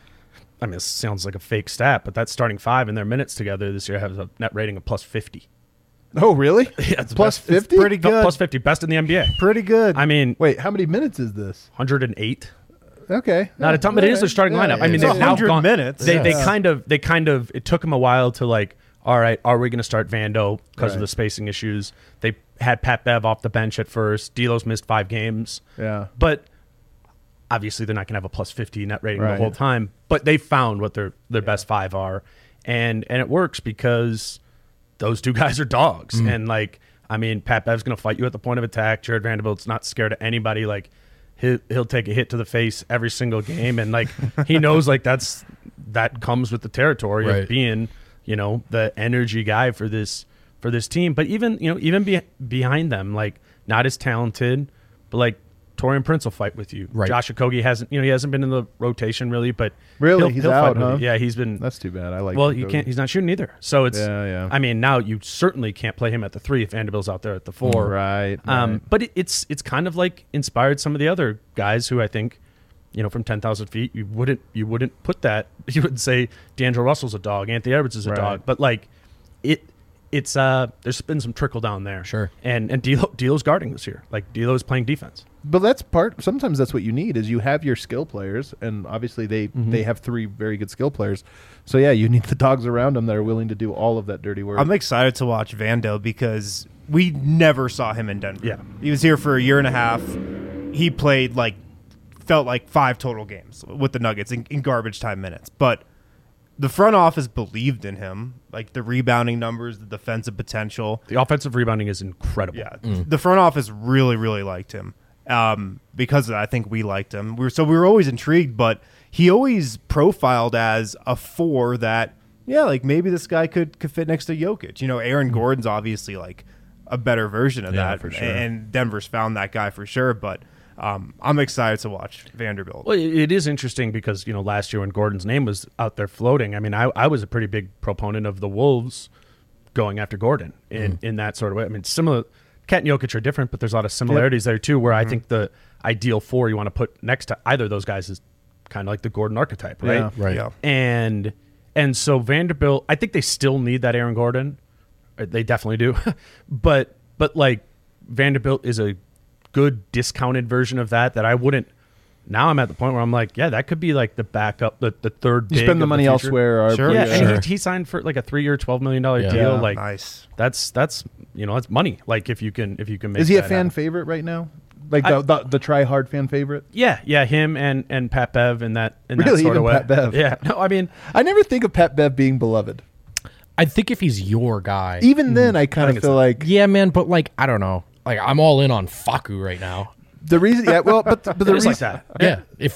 It sounds like a fake stat, but that starting 5 in their minutes together this year has a net rating of plus 50. Oh, really? Yeah, it's Plus best- 50? pretty good. Plus 50, best in the NBA. Pretty good. I mean, Wait, how many minutes is this? 108. Okay. Not a ton, but it is their starting lineup. I mean, It's they've now 100 gone minutes. They Yeah. kind of. It took them a while to like. All right, are we going to start Vando because of Right. the spacing issues? They had Pat Bev off the bench at first. D'Lo's missed 5 games. Yeah. But obviously, they're not going to have a plus 50 net rating Right. the whole time. But they found what their best 5 are, and it works because those 2 guys are dogs. And like, I mean, Pat Bev's going to fight you at the point of attack. Jared Vanderbilt's not scared of anybody. Like, he'll take a hit to the face every single game, and like he knows like that comes with the territory Right. of being the energy guy for this team. But even behind them, like not as talented, but like Torian Prince will fight with you. Right. Josh Okogie hasn't been in the rotation really, but Really? He's he'll out, fight with huh? you. Yeah, he's been. That's too bad. I like Well, Okogie. you can't. He's not shooting either. So it's. Yeah. I mean, now you certainly can't play him at the 3 if Vanderbilt's out there at the 4. Right. But it's kind of like inspired some of the other guys who I think, from 10,000 feet, you wouldn't put that. You wouldn't say D'Angelo Russell's a dog, Anthony Edwards is a Right. dog, but like it's there's been some trickle down there. Sure. And D'Lo's guarding this year. Like D'Lo's playing defense. But sometimes that's what you need is you have your skill players, and obviously they have 3 very good skill players. So yeah, you need the dogs around them that are willing to do all of that dirty work. I'm excited to watch Vando because we never saw him in Denver. Yeah. He was here for a year and a half. He played felt like 5 total games with the Nuggets in garbage time minutes. But the front office believed in him, like the rebounding numbers, the defensive potential. The offensive rebounding is incredible. Yeah, the front office really, really liked him. Because of that, I think we liked him. We were always intrigued, but he always profiled as a 4 that, like maybe this guy could fit next to Jokic. Aaron Gordon's obviously like a better version of that, for sure. and Denver's found that guy for sure. But I'm excited to watch Vanderbilt. Well, it is interesting because, last year when Gordon's name was out there floating, I mean, I was a pretty big proponent of the Wolves going after Gordon in that sort of way. I mean, similar. Cat and Jokic are different, but there's a lot of similarities there too, where I think the ideal 4 you want to put next to either of those guys is kind of like the Gordon archetype, right? Yeah. Right. Yeah. And so Vanderbilt, I think they still need that Aaron Gordon. They definitely do. but like Vanderbilt is a good discounted version of that I wouldn't. Now I'm at the point where I'm like, yeah, that could be like the backup, the third. You big spend the of money future. elsewhere. Sure. Yeah, Sure. and he signed for like a 3-year, $12 million deal. Yeah. Like Nice. that's that's money. Like if you can make. Is he a that fan happen. favorite right now? Like the try hard fan favorite? Yeah, him and Pat Bev in that Really? that sort Even of way. Pat Bev? Yeah, no, I mean, I never think of Pat Bev being beloved. I think if he's your guy, Even then, I kind I of think feel it's- like yeah, man. But like, I don't know. Like, I'm all in on Facu right now. the reason. Yeah, well, but the it is reason like that. Yeah, if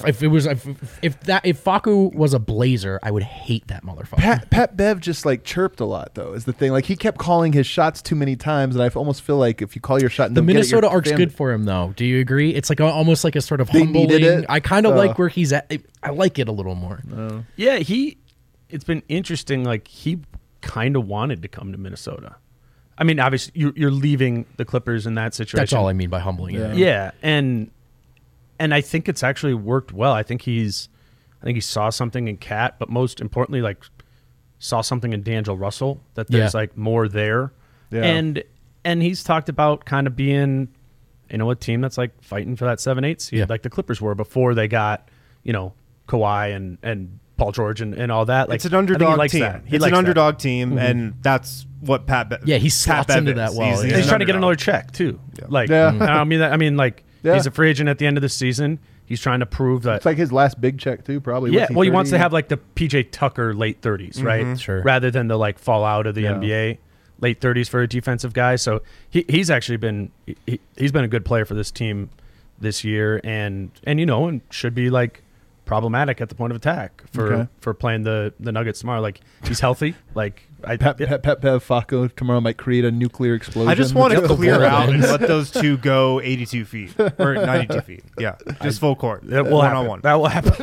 Facu was a Blazer, I would hate that motherfucker. Pat Bev just like chirped a lot, though, is the thing. Like he kept calling his shots too many times, and I almost feel like if you call your shot, and The don't get it, Minnesota your arc's fan- good for him, though. Do you agree? It's like almost like a sort of They needed humbling. it? I kind of like where he's at. I like it a little more. Yeah, it's been interesting. Like he kind of wanted to come to Minnesota. I mean, obviously you're leaving the Clippers in that situation. That's all I mean by humbling. Yeah. Yeah, and I think it's actually worked well. I think he saw something in Cat, but most importantly, like saw something in D'Angelo Russell that there's like more there. Yeah. And he's talked about kind of being, a team that's like fighting for that 7-8 seed, Yeah. like the Clippers were before they got, Kawhi and Paul George and all that. Like It's an I think he underdog likes team. that. He It's likes an that. underdog team, and that's what Yeah, he slots into that well, And yeah. he's trying to get an another check too. Like, Yeah. I mean, like Yeah. he's a free agent at the end of the season. He's trying to prove that. It's like his last big check too, probably. Yeah, What's well, he wants 30? to have like the PJ Tucker late 30s, right? Sure. Rather than the like fall out of the Yeah. NBA late 30s for a defensive guy. So he's actually been he's been a good player for this team this year, and should be like problematic at the point of attack for playing the Nuggets tomorrow. Like he's healthy. Like Pat Bev Facu tomorrow might create a nuclear explosion. I just want to Get the clear ball out and in. let those two go 82 feet or 92 feet. Yeah, just full court. that will one happen. on one. That will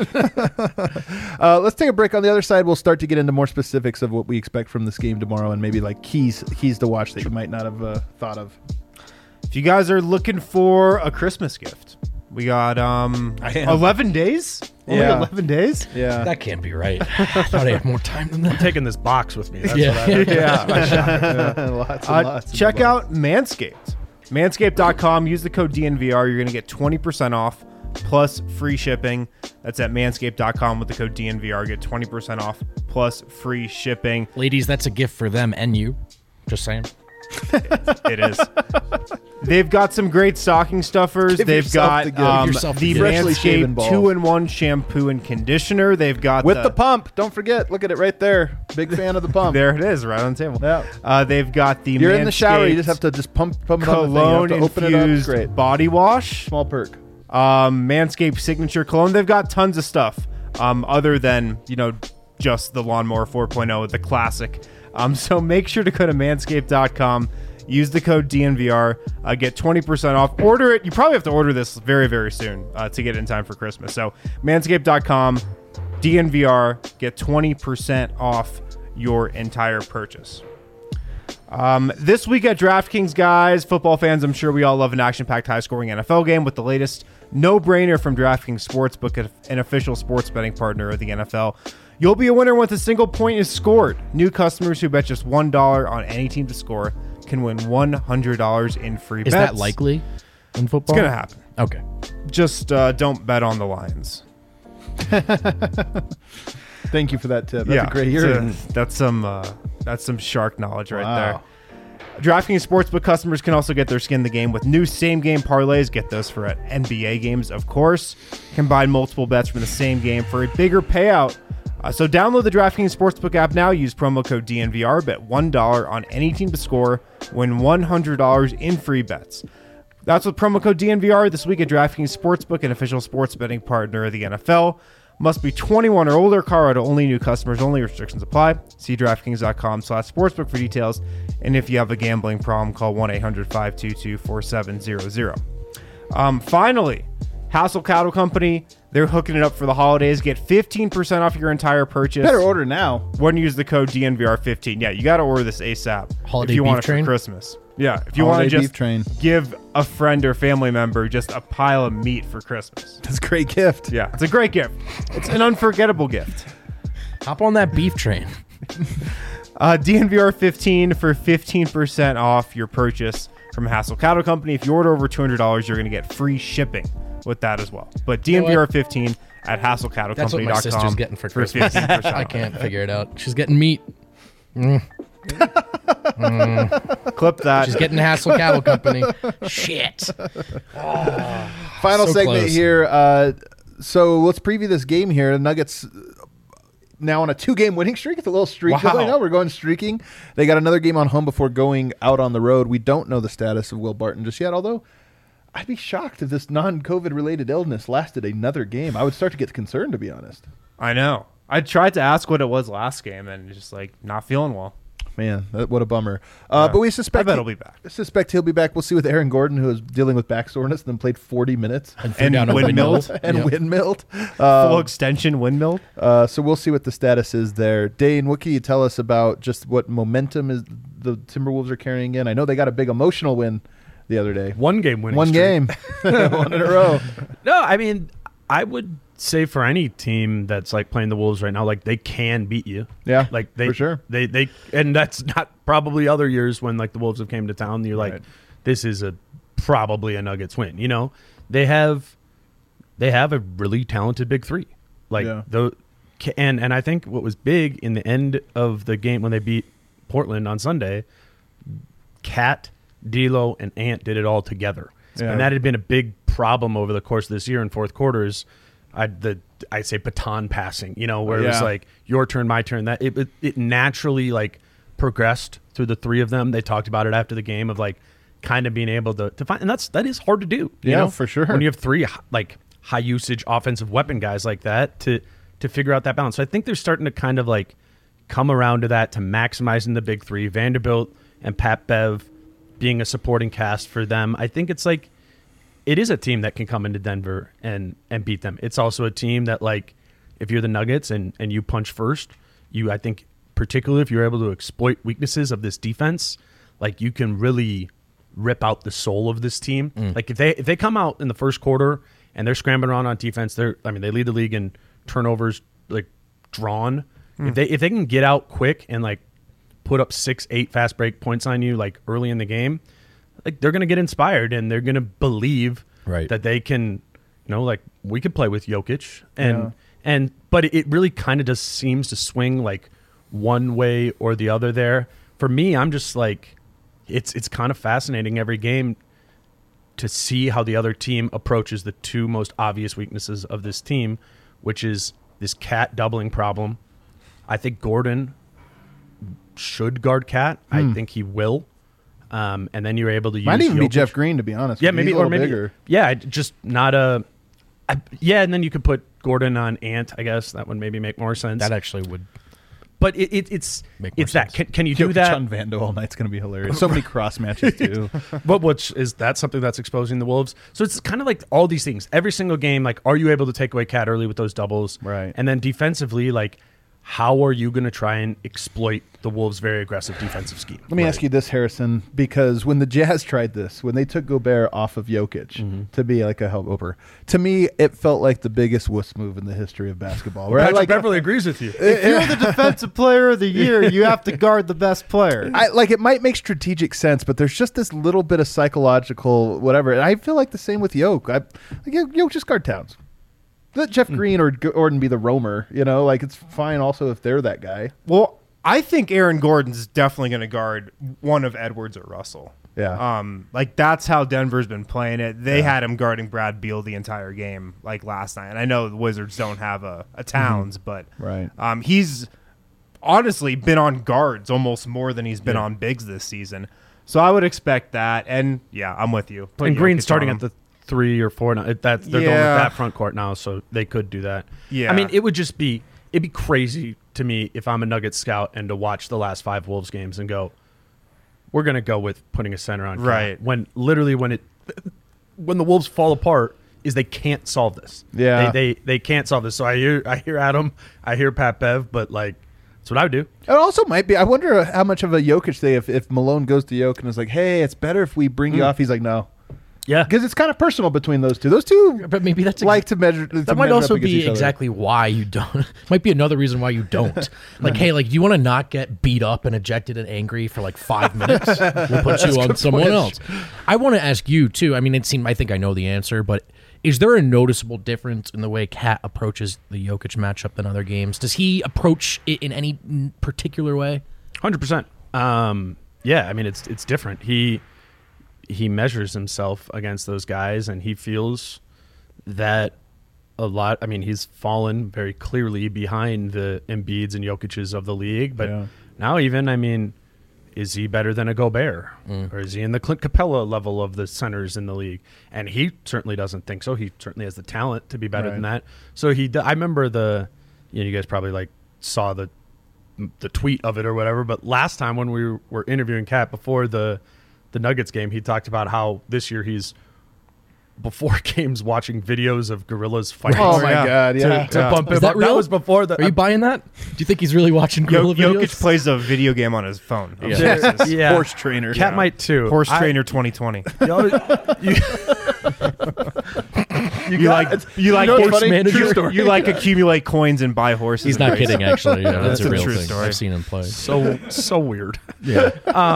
happen. Let's take a break. On the other side, we'll start to get into more specifics of what we expect from this game tomorrow, and maybe like keys to watch that you might not have thought of. If you guys are looking for a Christmas gift, we got 11 days. Only Yeah. 11 days. Yeah, That can't be right. I thought I had more time than that. Taking this box with me. That's Yeah. what I Yeah. lots and lots. Check out Manscaped. Manscaped.com. Use the code DNVR. You're going to get 20% off plus free shipping. That's at manscaped.com with the code DNVR. Get 20% off plus free shipping. Ladies, that's a gift for them and you. Just saying. It is. They've got some great stocking stuffers. Give They've yourself got the gift. Give yourself the the gift. Freshly shaven Manscaped balls. 2-in-1 shampoo and conditioner. They've got With the pump. Don't forget. Look at it right there. Big fan of the pump. There it is, right on the table. Yeah. They've got the You're in the shower. You just Manscaped have to just pump it on the thing. You have cologne to open it up. infused Great. body wash. Small perk. Manscaped signature cologne. They've got tons of stuff other than just the Lawnmower 4.0, the classic. So make sure to go to manscaped.com. Use the code DNVR. Get 20% off. Order it. You probably have to order this very, very soon to get it in time for Christmas. So manscaped.com, DNVR. Get 20% off your entire purchase. This week at DraftKings, guys, football fans, I'm sure we all love an action-packed, high-scoring NFL game with the latest no-brainer from DraftKings Sportsbook, an official sports betting partner of the NFL. You'll be a winner once a single point is scored. New customers who bet just $1 on any team to score can win $100 in free bets. Is that likely in football? It's going to happen. Okay. Just don't bet on the Lions. Thank you for that tip. That's a great hearing. That's some shark knowledge right Wow. there. DraftKings Sportsbook customers can also get their skin in the game with new same-game parlays. Get those for NBA games, of course. Combine multiple bets from the same game for a bigger payout. So download the DraftKings Sportsbook app now. Use promo code DNVR. Bet $1 on any team to score. Win $100 in free bets. That's with promo code DNVR this week at DraftKings Sportsbook, an official sports betting partner of the NFL. Must be 21 or older. Colorado only. New customers only. Restrictions apply. See DraftKings.com/sportsbook for details. And if you have a gambling problem, call 1-800-522-4700. Finally, Hassel Cattle Company. They're hooking it up for the holidays. Get 15% off your entire purchase. Better order now. When you use the code DNVR15. Yeah, you got to order this ASAP. Holiday if you want beef it train? for Christmas. Yeah, if you want to Holiday beef just train. give a friend or family member just a pile of meat for Christmas. That's a great gift. Yeah, it's a great gift. It's an unforgettable gift. Hop on that beef train. DNVR 15 for 15% off your purchase from Hassel Cattle Company. If you order over $200, you're going to get free shipping with that as well. But DNVR 15 at HassleCattleCompany.com. That's what my sister's getting for Christmas. 15% I off. can't figure it out. She's getting meat. Clip that. She's getting Hassel Cattle Company. Shit. Final So segment close. here. So let's preview this game here. The Nuggets now on a 2-game winning streak. It's a little streak Wow. going on. We're going streaking. They got another game on home before going out on the road. We don't know the status of Will Barton just yet, although I'd be shocked if this non-COVID related illness lasted another game. I would start to get concerned, to be honest. I know. I tried to ask what it was last game and just like not feeling well. Man, what a bummer. But we suspect I bet he'll be back. Suspect he'll be back. We'll see with Aaron Gordon, who is dealing with back soreness and then played 40 minutes threw down a windmilled. and Yep. windmilled. Full extension windmill. So we'll see what the status is there. Dane, what can you tell us about just what momentum is the Timberwolves are carrying in? I know they got a big emotional win the other day. One game winning One streak. game. One in a row. No, I mean, I would say for any team that's like playing the Wolves right now, like they can beat you. Yeah, Like they for sure. They and that's not probably other years when like the Wolves have came to town. You're like, Right. this is probably a Nuggets win. You know, they have a really talented big three. Like Yeah. and I think what was big in the end of the game when they beat Portland on Sunday, Cat, D'Lo, and Ant did it all together. Yeah. And that had been a big problem over the course of this year in fourth quarters. I'd say baton passing, you know, where it was Yeah. like your turn, my turn. That it naturally like progressed through the three of them. They talked about it after the game of like kind of being able to find, and that is hard to do. You Yeah, know? for sure. When you have three like high usage offensive weapon guys like that to figure out that balance. So I think they're starting to kind of like come around to that, to maximizing the big three. Vanderbilt and Pat Bev being a supporting cast for them. I think it's like it is a team that can come into Denver and beat them. It's also a team that, like, if you're the Nuggets and you punch first, I think particularly if you're able to exploit weaknesses of this defense, like you can really rip out the soul of this team. Like if they come out in the first quarter and they're scrambling around on defense, they lead the league in turnovers, like drawn. If they can get out quick and like put up 6-8 fast break points on you like early in the game, like they're gonna get inspired and they're gonna believe Right. that they can, you know, like we could play with Jokic but it really kind of just seems to swing like one way or the other there. For me, I'm just like it's kind of fascinating every game to see how the other team approaches the two most obvious weaknesses of this team, which is this Cat doubling problem. I think Gordon should guard Cat. I think he will. And then you're able to use Might even be Jokic. Jeff Green, to be honest. Yeah, with you. maybe He's a or little maybe bigger. yeah, just not a. And then you could put Gordon on Ant. I guess that would maybe make more sense. That actually would. But it's Make more it's that. sense. Can you do Jokic that? on Vando all night's going to be hilarious. So many cross matches, too. But which is that something that's exposing the Wolves? So it's kind of like all these things. Every single game, like, are you able to take away Cat early with those doubles? Right. And then defensively, like, how are you going to try and exploit the Wolves' very aggressive defensive scheme? Let me ask you this, Harrison, because when the Jazz tried this, when they took Gobert off of Jokic to be like a help-over, to me, it felt like the biggest wuss move in the history of basketball. Where Patrick Beverly agrees with you. If you're the defensive player of the year, you have to guard the best player. it might make strategic sense, but there's just this little bit of psychological whatever. And I feel like the same with Jokic. Jokic just guard Towns. Let Jeff Green or Gordon be the roamer. It's fine also if they're that guy. Well, I think Aaron Gordon's definitely going to guard one of Edwards or Russell. Yeah. That's how Denver's been playing it. They had him guarding Brad Beal the entire game, last night. And I know the Wizards don't have a Towns, but Right. He's honestly been on guards almost more than he's been on bigs this season. So I would expect that. And yeah, I'm with you. Put And Jokic Green's starting on at him. the 3 or 4 now. They're going with that front court now, so they could do that. Yeah. I mean, it'd be crazy to me if I'm a Nuggets scout and to watch the last 5 Wolves games and go, we're going to go with putting a center on. Right. When the Wolves fall apart is they can't solve this. Yeah. They can't solve this. So I hear Adam, I hear Pat Bev, but that's what I would do. It also might be. I wonder how much of a Jokic thing if Malone goes to Jokic and is like, "Hey, it's better if we bring you off." He's like, "No," Yeah. because it's kind of personal between those two. Those two, But maybe that's like to measure. that might also be exactly why you don't. Might be another reason why you don't. Hey, do you want to not get beat up and ejected and angry for 5 minutes? We'll put you on someone else. I want to ask you too. I mean, I think I know the answer, but is there a noticeable difference in the way Cat approaches the Jokic matchup than other games? Does he approach it in any particular way? 100%. Yeah, I mean it's different. He measures himself against those guys, and he feels that a lot. I mean, he's fallen very clearly behind the Embiids and Jokic's of the league, but now even, I mean, is he better than a Gobert, or is he in the Clint Capella level of the centers in the league? And he certainly doesn't think so. He certainly has the talent to be better than that. So I remember you guys probably saw the tweet of it or whatever, but last time when we were interviewing Cat before the Nuggets game, he talked about how this year he's before games watching videos of gorillas fighting. Oh my God! Yeah. To bump Is him that up. real? That was before the. Are you buying that? Do you think he's really watching gorilla videos? Jokic plays a video game on his phone. Yeah. Horse trainer. Cat might too. Horse Trainer 2020. You like know what's horse funny? manager? True story. You like accumulate coins and buy horses. He's and not race. kidding, actually. Yeah, that's a a real true thing. story. I've seen him play. so weird. Yeah.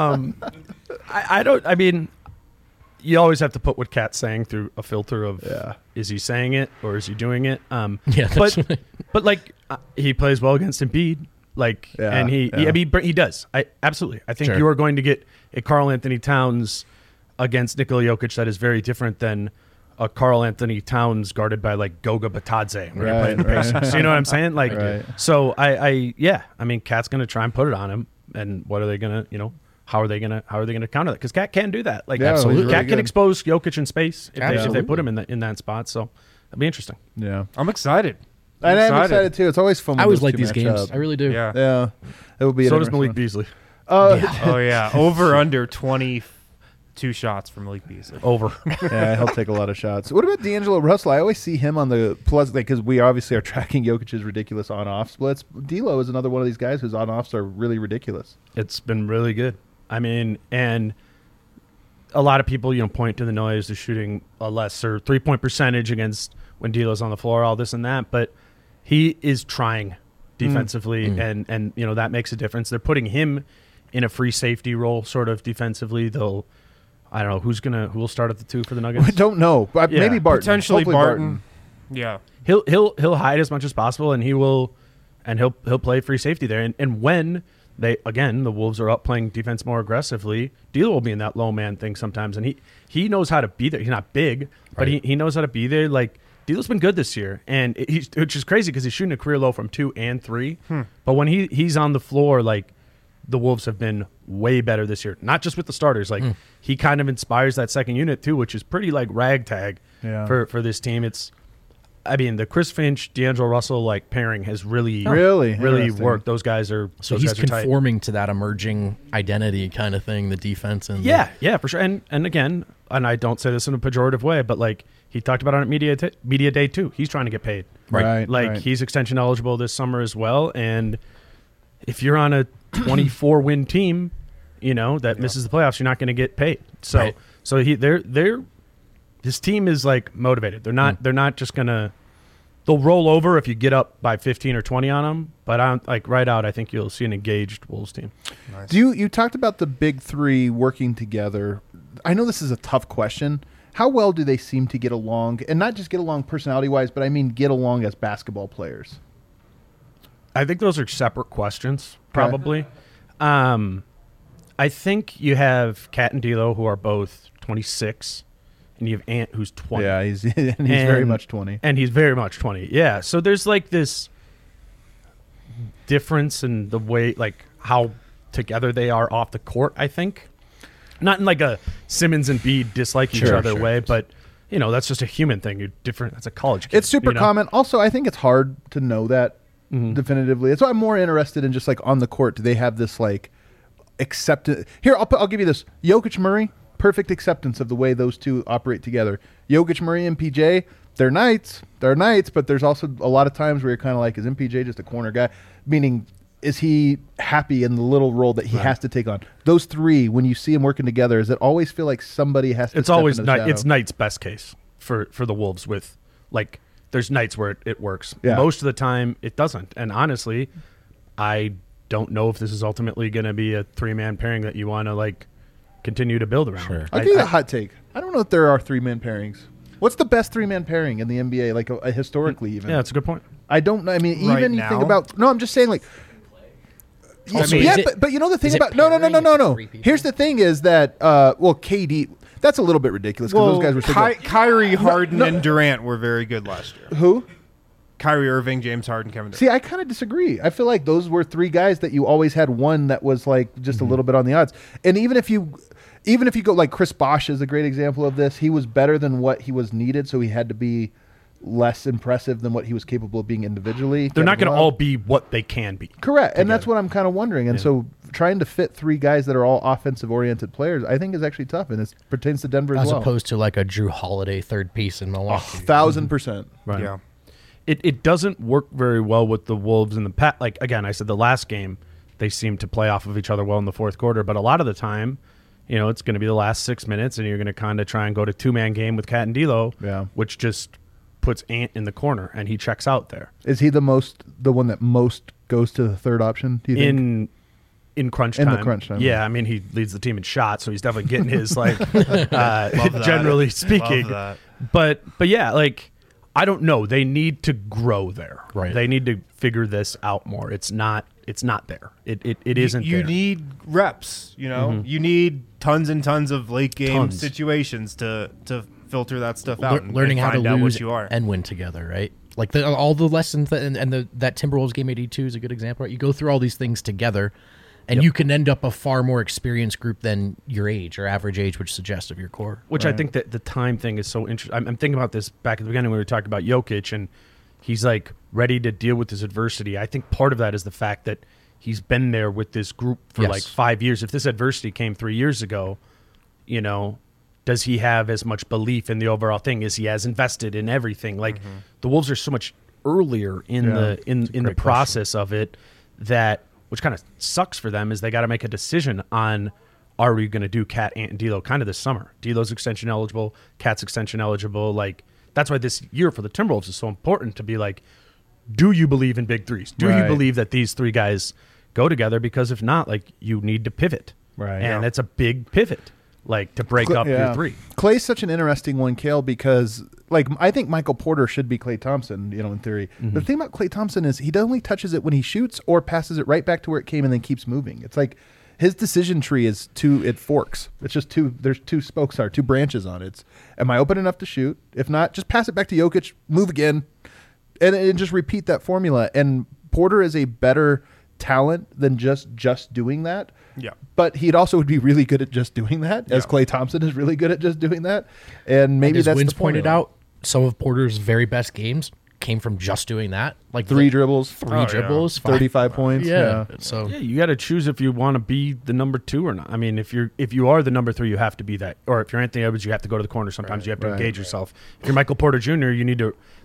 I mean, you always have to put what Cat's saying through a filter of is he saying it or is he doing it? Yeah, that's but he plays well against Embiid, and he does. Absolutely. I think Sure. you are going to get a Karl Anthony Towns against Nikola Jokic that is very different than a Karl Anthony Towns guarded by Goga Batadze when you're playing the Pacers. So you know what I'm saying? Right. So I mean, Cat's going to try and put it on him, and what are they going to, how are they going to counter that? Because Cat can do that. Absolutely. Cat can expose Jokic in space if they Absolutely. put him in that spot. So that'd be interesting. Yeah. I'm excited. And I'm excited too. It's always fun. I when always those like two these match games. up. I really do. Yeah. Yeah. It will be. So an does Malik interesting Beasley. one. Oh yeah. Over under 22 shots from Malik Beasley. Over. Yeah, he'll take a lot of shots. What about D'Angelo Russell? I always see him on the plus, because we obviously are tracking Jokic's ridiculous on-off splits. D'Lo is another one of these guys whose on-offs are really ridiculous. It's been really good. I mean, and a lot of people, point to the noise, the shooting a lesser 3-point percentage against when D'Lo's on the floor, all this and that, but he is trying defensively, and that makes a difference. They're putting him in a free safety role, sort of defensively. I don't know who will start at the 2 for the Nuggets. I don't know. But Yeah. maybe Barton. Potentially Hopefully Barton. Yeah. He'll hide as much as possible, and he'll play free safety there. And when the Wolves are up playing defense more aggressively, D'Lo will be in that low man thing sometimes, and he knows how to be there. He's not big, but he knows how to be there. D'Lo's been good this year, and which is crazy because he's shooting a career low from 2 and 3. But when he's on the floor, the Wolves have been way better this year. Not just with the starters. He kind of inspires that second unit too, which is pretty ragtag for this team. The Chris Finch, D'Angelo Russell pairing has really Interesting. worked. Those guys are So those he's guys are tight. conforming to that emerging identity kind of thing, the defense and Yeah, for sure. And again, and I don't say this in a pejorative way, but he talked about it on Media Day too. He's trying to get paid. Right. He's extension eligible this summer as well. And if you're on a 24 win team, that misses the playoffs, you're not going to get paid. So, Right. his team is like motivated. They're not just going to. They'll roll over if you get up by 15 or 20 on them, but right out, I think you'll see an engaged Wolves team. Nice. You talked about the big three working together. I know this is a tough question. How well do they seem to get along, and not just get along personality-wise, but I mean get along as basketball players? I think those are separate questions, probably. I think you have Kat and D'Lo, who are both 26, and you have Ant, who's 20. Yeah, he's very much 20. And he's very much 20. Yeah, so there's like this difference in the way, like how together they are off the court, I think. Not in like a Simmons and Bede dislike each other way, but that's just a human thing. You're different. That's a college kid. It's super common. Also, I think it's hard to know that definitively. That's why I'm more interested in just like on the court. Do they have this like acceptance? Here, I'll give you this. Jokic, Murray, perfect acceptance of the way those two operate together. Jokic, Murray, and MPJ, they're knights, but there's also a lot of times where you're kind of like, is MPJ just a corner guy? Meaning, is he happy in the little role that he has to take on? Those three, when you see them working together, does it always feel like somebody has to? It's always it's Knight's best case for the Wolves. With like, there's nights where it works. Yeah. Most of the time, it doesn't. And honestly, I don't know if this is ultimately going to be a 3-man pairing that you want to like continue to build around. Sure. I'll give you a hot take. I don't know if there are 3-man pairings. What's the best 3-man pairing in the NBA, like historically even? Yeah, that's a good point. I don't know. I mean, Right even you now? think about. No, I'm just saying, like. Also, yeah, is it- but you know the thing is it about no. pairing with three people? Here's the thing: is that KD. That's a little bit ridiculous because those guys were so good. Kyrie, Harden, no. and Durant were very good last year. Who? Kyrie Irving, James Harden, Kevin Durant. See, I kind of disagree. I feel like those were 3 guys that you always had one that was like just a little bit on the odds. And even if you go like Chris Bosh is a great example of this. He was better than what he was needed, so he had to be less impressive than what he was capable of being individually. They're not going to Kevin Love. all be what they can be. Correct. And that's what I'm kind of wondering. And so trying to fit 3 guys that are all offensive-oriented players, I think is actually tough, and it pertains to Denver as As well. opposed to like a Drew Holiday third piece in Milwaukee. 1,000%. Right. Yeah. It doesn't work very well with the Wolves in the past. Like, again, I said the last game, they seem to play off of each other well in the fourth quarter, but a lot of the time, it's going to be the last 6 minutes, and you're going to kind of try and go to 2-man game with Kat and D'Lo, which just puts Ant in the corner, and he checks out there. Is he the one that most goes to the third option, do you think? In crunch time. In the crunch time. Yeah, I mean, he leads the team in shots, so he's definitely getting his, like, Love that. generally speaking. Love But yeah, like, I don't know. They need to grow there. Right. They need to figure this out more. It's not there. It isn't You there. need reps, You need tons and tons of late game Tons. situations to filter that stuff out and learning how to find out lose what you are. and win together, right? Like all the lessons that Timberwolves game 82 is a good example, right? You go through all these things together, and you can end up a far more experienced group than your age or average age would suggest of your core. Which I think that the time thing is so interesting. I'm thinking about this back at the beginning when we were talking about Jokic, and he's like ready to deal with this adversity. I think part of that is the fact that he's been there with this group for like 5 years. If this adversity came 3 years ago, does he have as much belief in the overall thing? Is he as invested in everything? Like the Wolves are so much earlier in the process of it that, which kind of sucks for them, is they got to make a decision on, are we going to do Kat, Ant, and D'Lo kind of this summer? D'Lo's extension eligible, Kat's extension eligible. Like, that's why this year for the Timberwolves is so important to be like, do you believe in big threes? Do you believe that these 3 guys go together? Because if not, like, you need to pivot. Right. And it's a big pivot, like, to break up your 3. Clay's such an interesting one, Kale, because like I think Michael Porter should be Klay Thompson, in theory. The thing about Klay Thompson is he only touches it when he shoots or passes it right back to where it came and then keeps moving. It's like his decision tree is it forks. It's just there's 2 spokes, 2 branches on it. It's, am I open enough to shoot? If not, just pass it back to Jokic, move again, and just repeat that formula. And Porter is a better talent than just doing that. Yeah. But he'd also would be really good at just doing that, as Klay Thompson is really good at just doing that. And maybe as that's Wins the formula. pointed out, some of Porter's very best games came from just doing that. Like 3 dribbles, 3 dribbles, 35 points. Yeah. So Yeah, you got to choose if you want to be the number 2 or not. I mean, if you are the number 3, you have to be that. Or if you're Anthony Edwards, you have to go to the corner. Sometimes you have to engage yourself. If you're Michael Porter Jr., you need to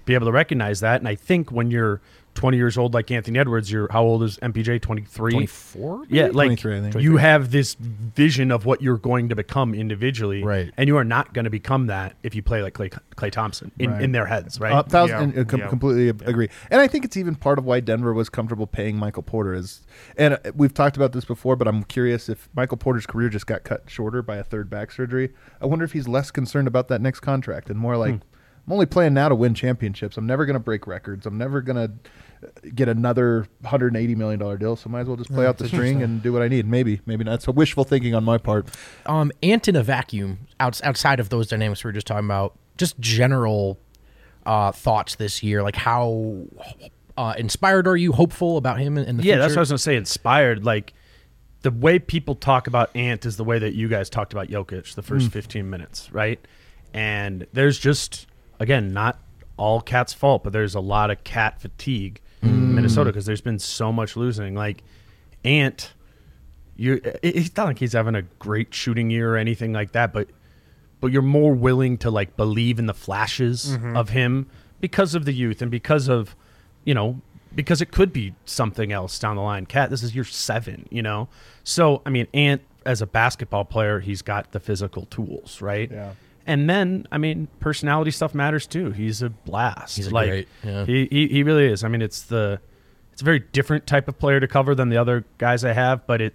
be able to recognize that. And I think when you're 20 years old like Anthony Edwards, how old is MPJ? 23? 24? Yeah, like 23, I think. you have this vision of what you're going to become individually, Right. and you are not going to become that if you play like Klay Thompson in their heads, right? Completely agree. And I think it's even part of why Denver was comfortable paying Michael Porter. And we've talked about this before, but I'm curious if Michael Porter's career just got cut shorter by a third back surgery. I wonder if he's less concerned about that next contract and more like, I'm only playing now to win championships. I'm never going to break records. I'm never going to get another $180 million deal, so might as well just play out the string and do what I need. Maybe not. So wishful thinking on my part. Ant in a vacuum, outside of those dynamics we were just talking about, just general thoughts this year, like how inspired are you, hopeful about him in the future? Yeah, that's what I was going to say, inspired. Like, the way people talk about Ant is the way that you guys talked about Jokic the first 15 minutes, right? And there's just, again, not all Cat's fault, but there's a lot of Cat fatigue in Minnesota because there's been so much losing. Like, Ant, it's not like he's having a great shooting year or anything like that, but you're more willing to, like, believe in the flashes of him because of the youth and because of, because it could be something else down the line. Cat, this is year 7, So, I mean, Ant, as a basketball player, he's got the physical tools, right? Yeah. And then, I mean, personality stuff matters too. He's a blast. He's like, great. Yeah. He really is. I mean, it's a very different type of player to cover than the other guys I have, but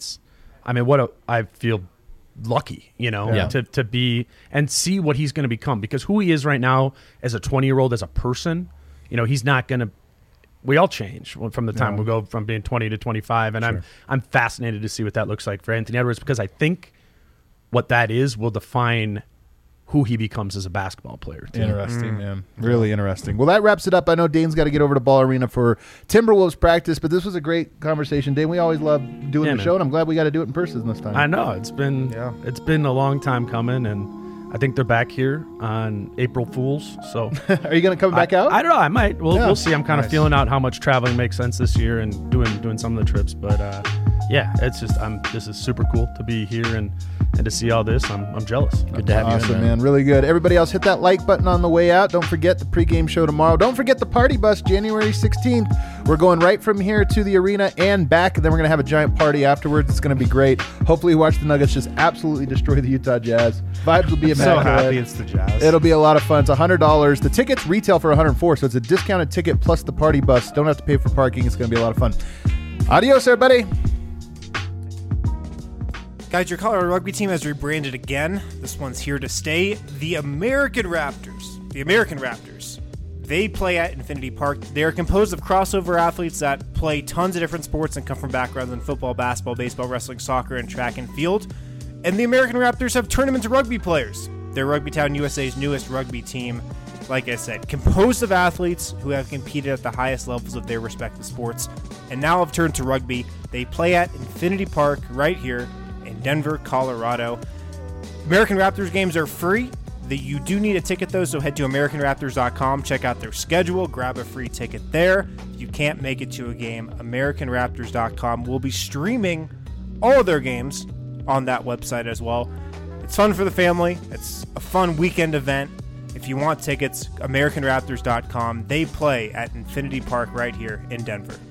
I feel lucky, to be and see what he's going to become, because who he is right now as a 20-year-old, as a person, he's not going to. We all change from the time we go from being 20 to 25, and I'm fascinated to see what that looks like for Anthony Edwards, because I think what that is will define who he becomes as a basketball player. Interesting, man. Really interesting. Well, that wraps it up. I know Dane's got to get over to Ball Arena for Timberwolves practice, but this was a great conversation. Dane, we always love doing the show, and I'm glad we got to do it in person this time. I know. It's been a long time coming, and I think they're back here on April Fools. So, are you going to come back out? I don't know. I might. We'll see. I'm kind of feeling out how much traveling makes sense this year and doing some of the trips. But it's just this is super cool to be here and to see all this. I'm jealous. Good to have you. Awesome, man. Really good. Everybody else, hit that like button on the way out. Don't forget the pregame show tomorrow. Don't forget the party bus January 16th. We're going right from here to the arena and back, and then we're going to have a giant party afterwards. It's going to be great. Hopefully, watch the Nuggets just absolutely destroy the Utah Jazz. Vibes will be immaculate. So happy it's the Jazz. It'll be a lot of fun. It's $100. The tickets retail for $104, so it's a discounted ticket plus the party bus. Don't have to pay for parking. It's going to be a lot of fun. Adios, everybody. Guys, your Colorado rugby team has rebranded again. This one's here to stay. The American Raptors. The American Raptors. They play at Infinity Park. They are composed of crossover athletes that play tons of different sports and come from backgrounds in football, basketball, baseball, wrestling, soccer, and track and field. And the American Raptors have turned them into rugby players. They're Rugby Town USA's newest rugby team. Like I said, composed of athletes who have competed at the highest levels of their respective sports and now have turned to rugby. They play at Infinity Park right here in Denver, Colorado. American Raptors games are free. You do need a ticket, though, so head to AmericanRaptors.com, check out their schedule, grab a free ticket there. If you can't make it to a game, AmericanRaptors.com will be streaming all of their games on that website as well. It's fun for the family. It's a fun weekend event. If you want tickets, AmericanRaptors.com. They play at Infinity Park right here in Denver.